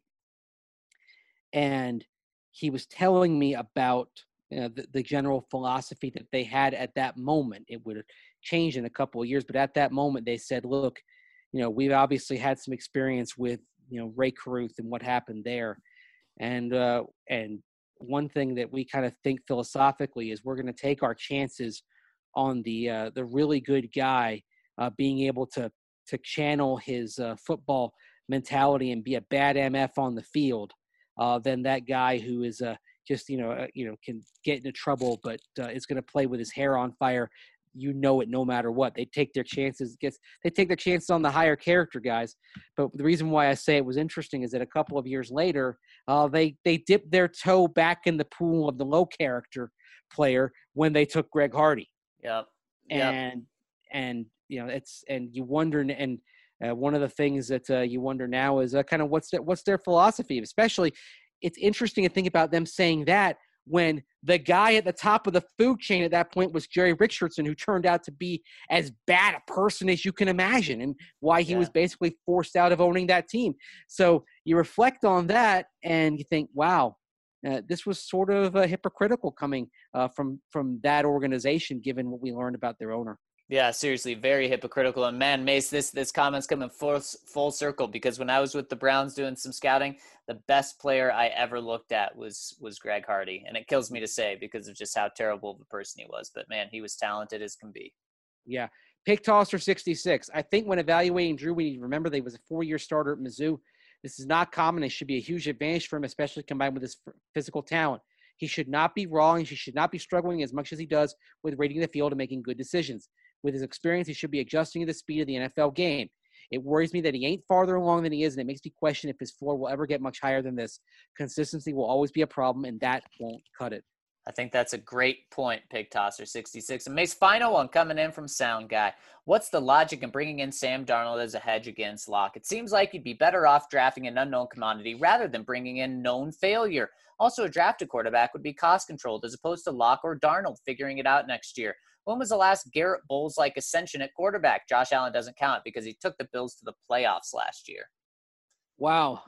And he was telling me about the general philosophy that they had at that moment. It would have changed in a couple of years, but at that moment they said, "Look, we've obviously had some experience with Ray Caruth and what happened there." And one thing that we kind of think philosophically is we're going to take our chances on the really good guy being able to channel his football mentality and be a bad MF on the field than that guy who is just can get into trouble but is going to play with his hair on fire. It no matter what. They take their chances. They take their chances on the higher character guys. But the reason why I say it was interesting is that a couple of years later, they dipped their toe back in the pool of the low character player when they took Greg Hardy. Yep. And you wonder, and one of the things that you wonder now is kind of what's their philosophy. Especially, it's interesting to think about them saying that when the guy at the top of the food chain at that point was Jerry Richardson, who turned out to be as bad a person as you can imagine, and why he was basically forced out of owning that team. So you reflect on that and you think, wow, this was sort of hypocritical coming from that organization, given what we learned about their owner. Yeah, seriously, very hypocritical. And man, Mace, this comment's coming full circle, because when I was with the Browns doing some scouting, the best player I ever looked at was Greg Hardy. And it kills me to say because of just how terrible of a person he was. But man, he was talented as can be. Yeah. Pick Tosser 66. I think when evaluating Drew, we need to remember that he was a 4-year starter at Mizzou. This is not common. It should be a huge advantage for him, especially combined with his physical talent. He should not be raw, and he should not be struggling as much as he does with reading the field and making good decisions. With his experience, he should be adjusting to the speed of the NFL game. It worries me that he ain't farther along than he is, and it makes me question if his floor will ever get much higher than this. Consistency will always be a problem, and that won't cut it. I think that's a great point, Pig Tosser 66. And Mace, final one coming in from Sound Guy. What's the logic in bringing in Sam Darnold as a hedge against Locke? It seems like you'd be better off drafting an unknown commodity rather than bringing in known failure. Also, a drafted quarterback would be cost-controlled as opposed to Locke or Darnold figuring it out next year. When was the last Garrett Bowles-like ascension at quarterback? Josh Allen doesn't count because he took the Bills to the playoffs last year. Wow.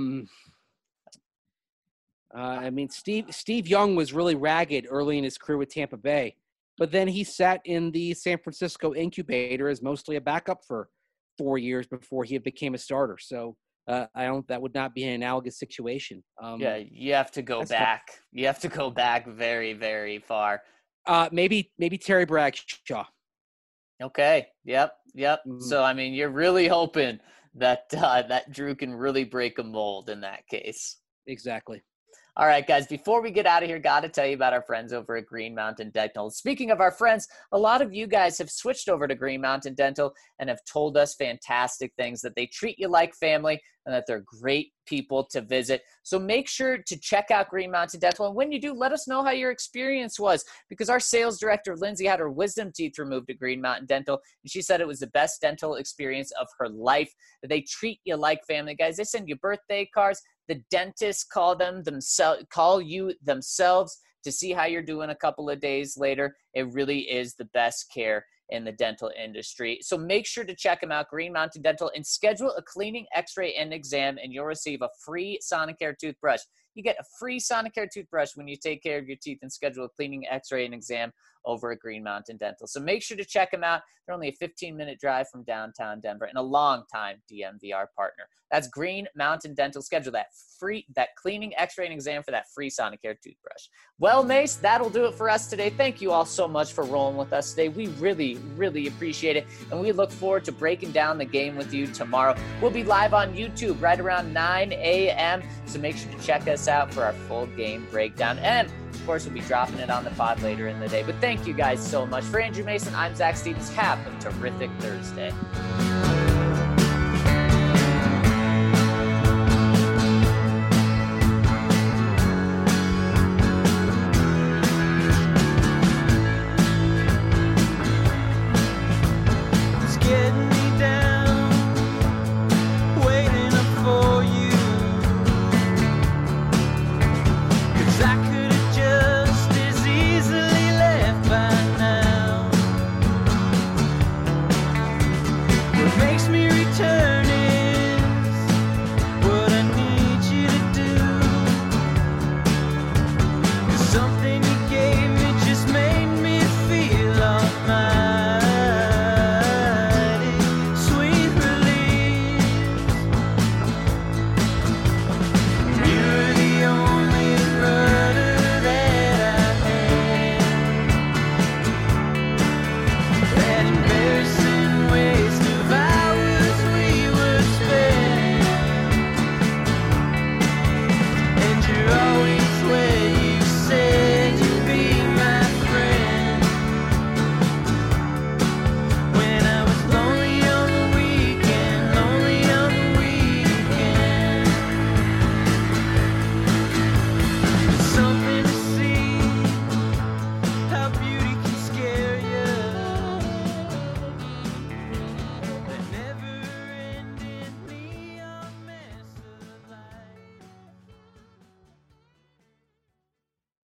I mean, Steve Young was really ragged early in his career with Tampa Bay, but then he sat in the San Francisco incubator as mostly a backup for 4 years before he became a starter. So that would not be an analogous situation. Yeah, you have to go back. Tough. You have to go back very, very far. Maybe Terry Bradshaw. Okay. Yep. Mm-hmm. So, I mean, you're really hoping that that Drew can really break a mold in that case. Exactly. All right, guys, before we get out of here, got to tell you about our friends over at Green Mountain Dental. Speaking of our friends, a lot of you guys have switched over to Green Mountain Dental and have told us fantastic things, that they treat you like family and that they're great people to visit. So make sure to check out Green Mountain Dental. And when you do, let us know how your experience was, because our sales director, Lindsay, had her wisdom teeth removed at Green Mountain Dental, and she said it was the best dental experience of her life. They treat you like family, guys. They send you birthday cards. The dentists call you themselves to see how you're doing a couple of days later. It really is the best care in the dental industry. So make sure to check them out, Green Mountain Dental, and schedule a cleaning, x-ray, and exam, and you'll receive a free Sonicare toothbrush. You get a free Sonicare toothbrush when you take care of your teeth and schedule a cleaning, x-ray, and exam over at Green Mountain Dental. So make sure to check them out. They're only a 15-minute drive from downtown Denver and a long-time DNVR partner. That's Green Mountain Dental. Schedule that cleaning, x-ray, and exam for that free Sonicare toothbrush. Well, Mace, that'll do it for us today. Thank you all so much for rolling with us today. We really, really appreciate it, and we look forward to breaking down the game with you tomorrow. We'll be live on YouTube right around 9 a.m., so make sure to check us out for our full game breakdown. And of course, we'll be dropping it on the pod later in the day. But thank you guys so much. For Andrew Mason, I'm Zach Stevens. Have a terrific Thursday.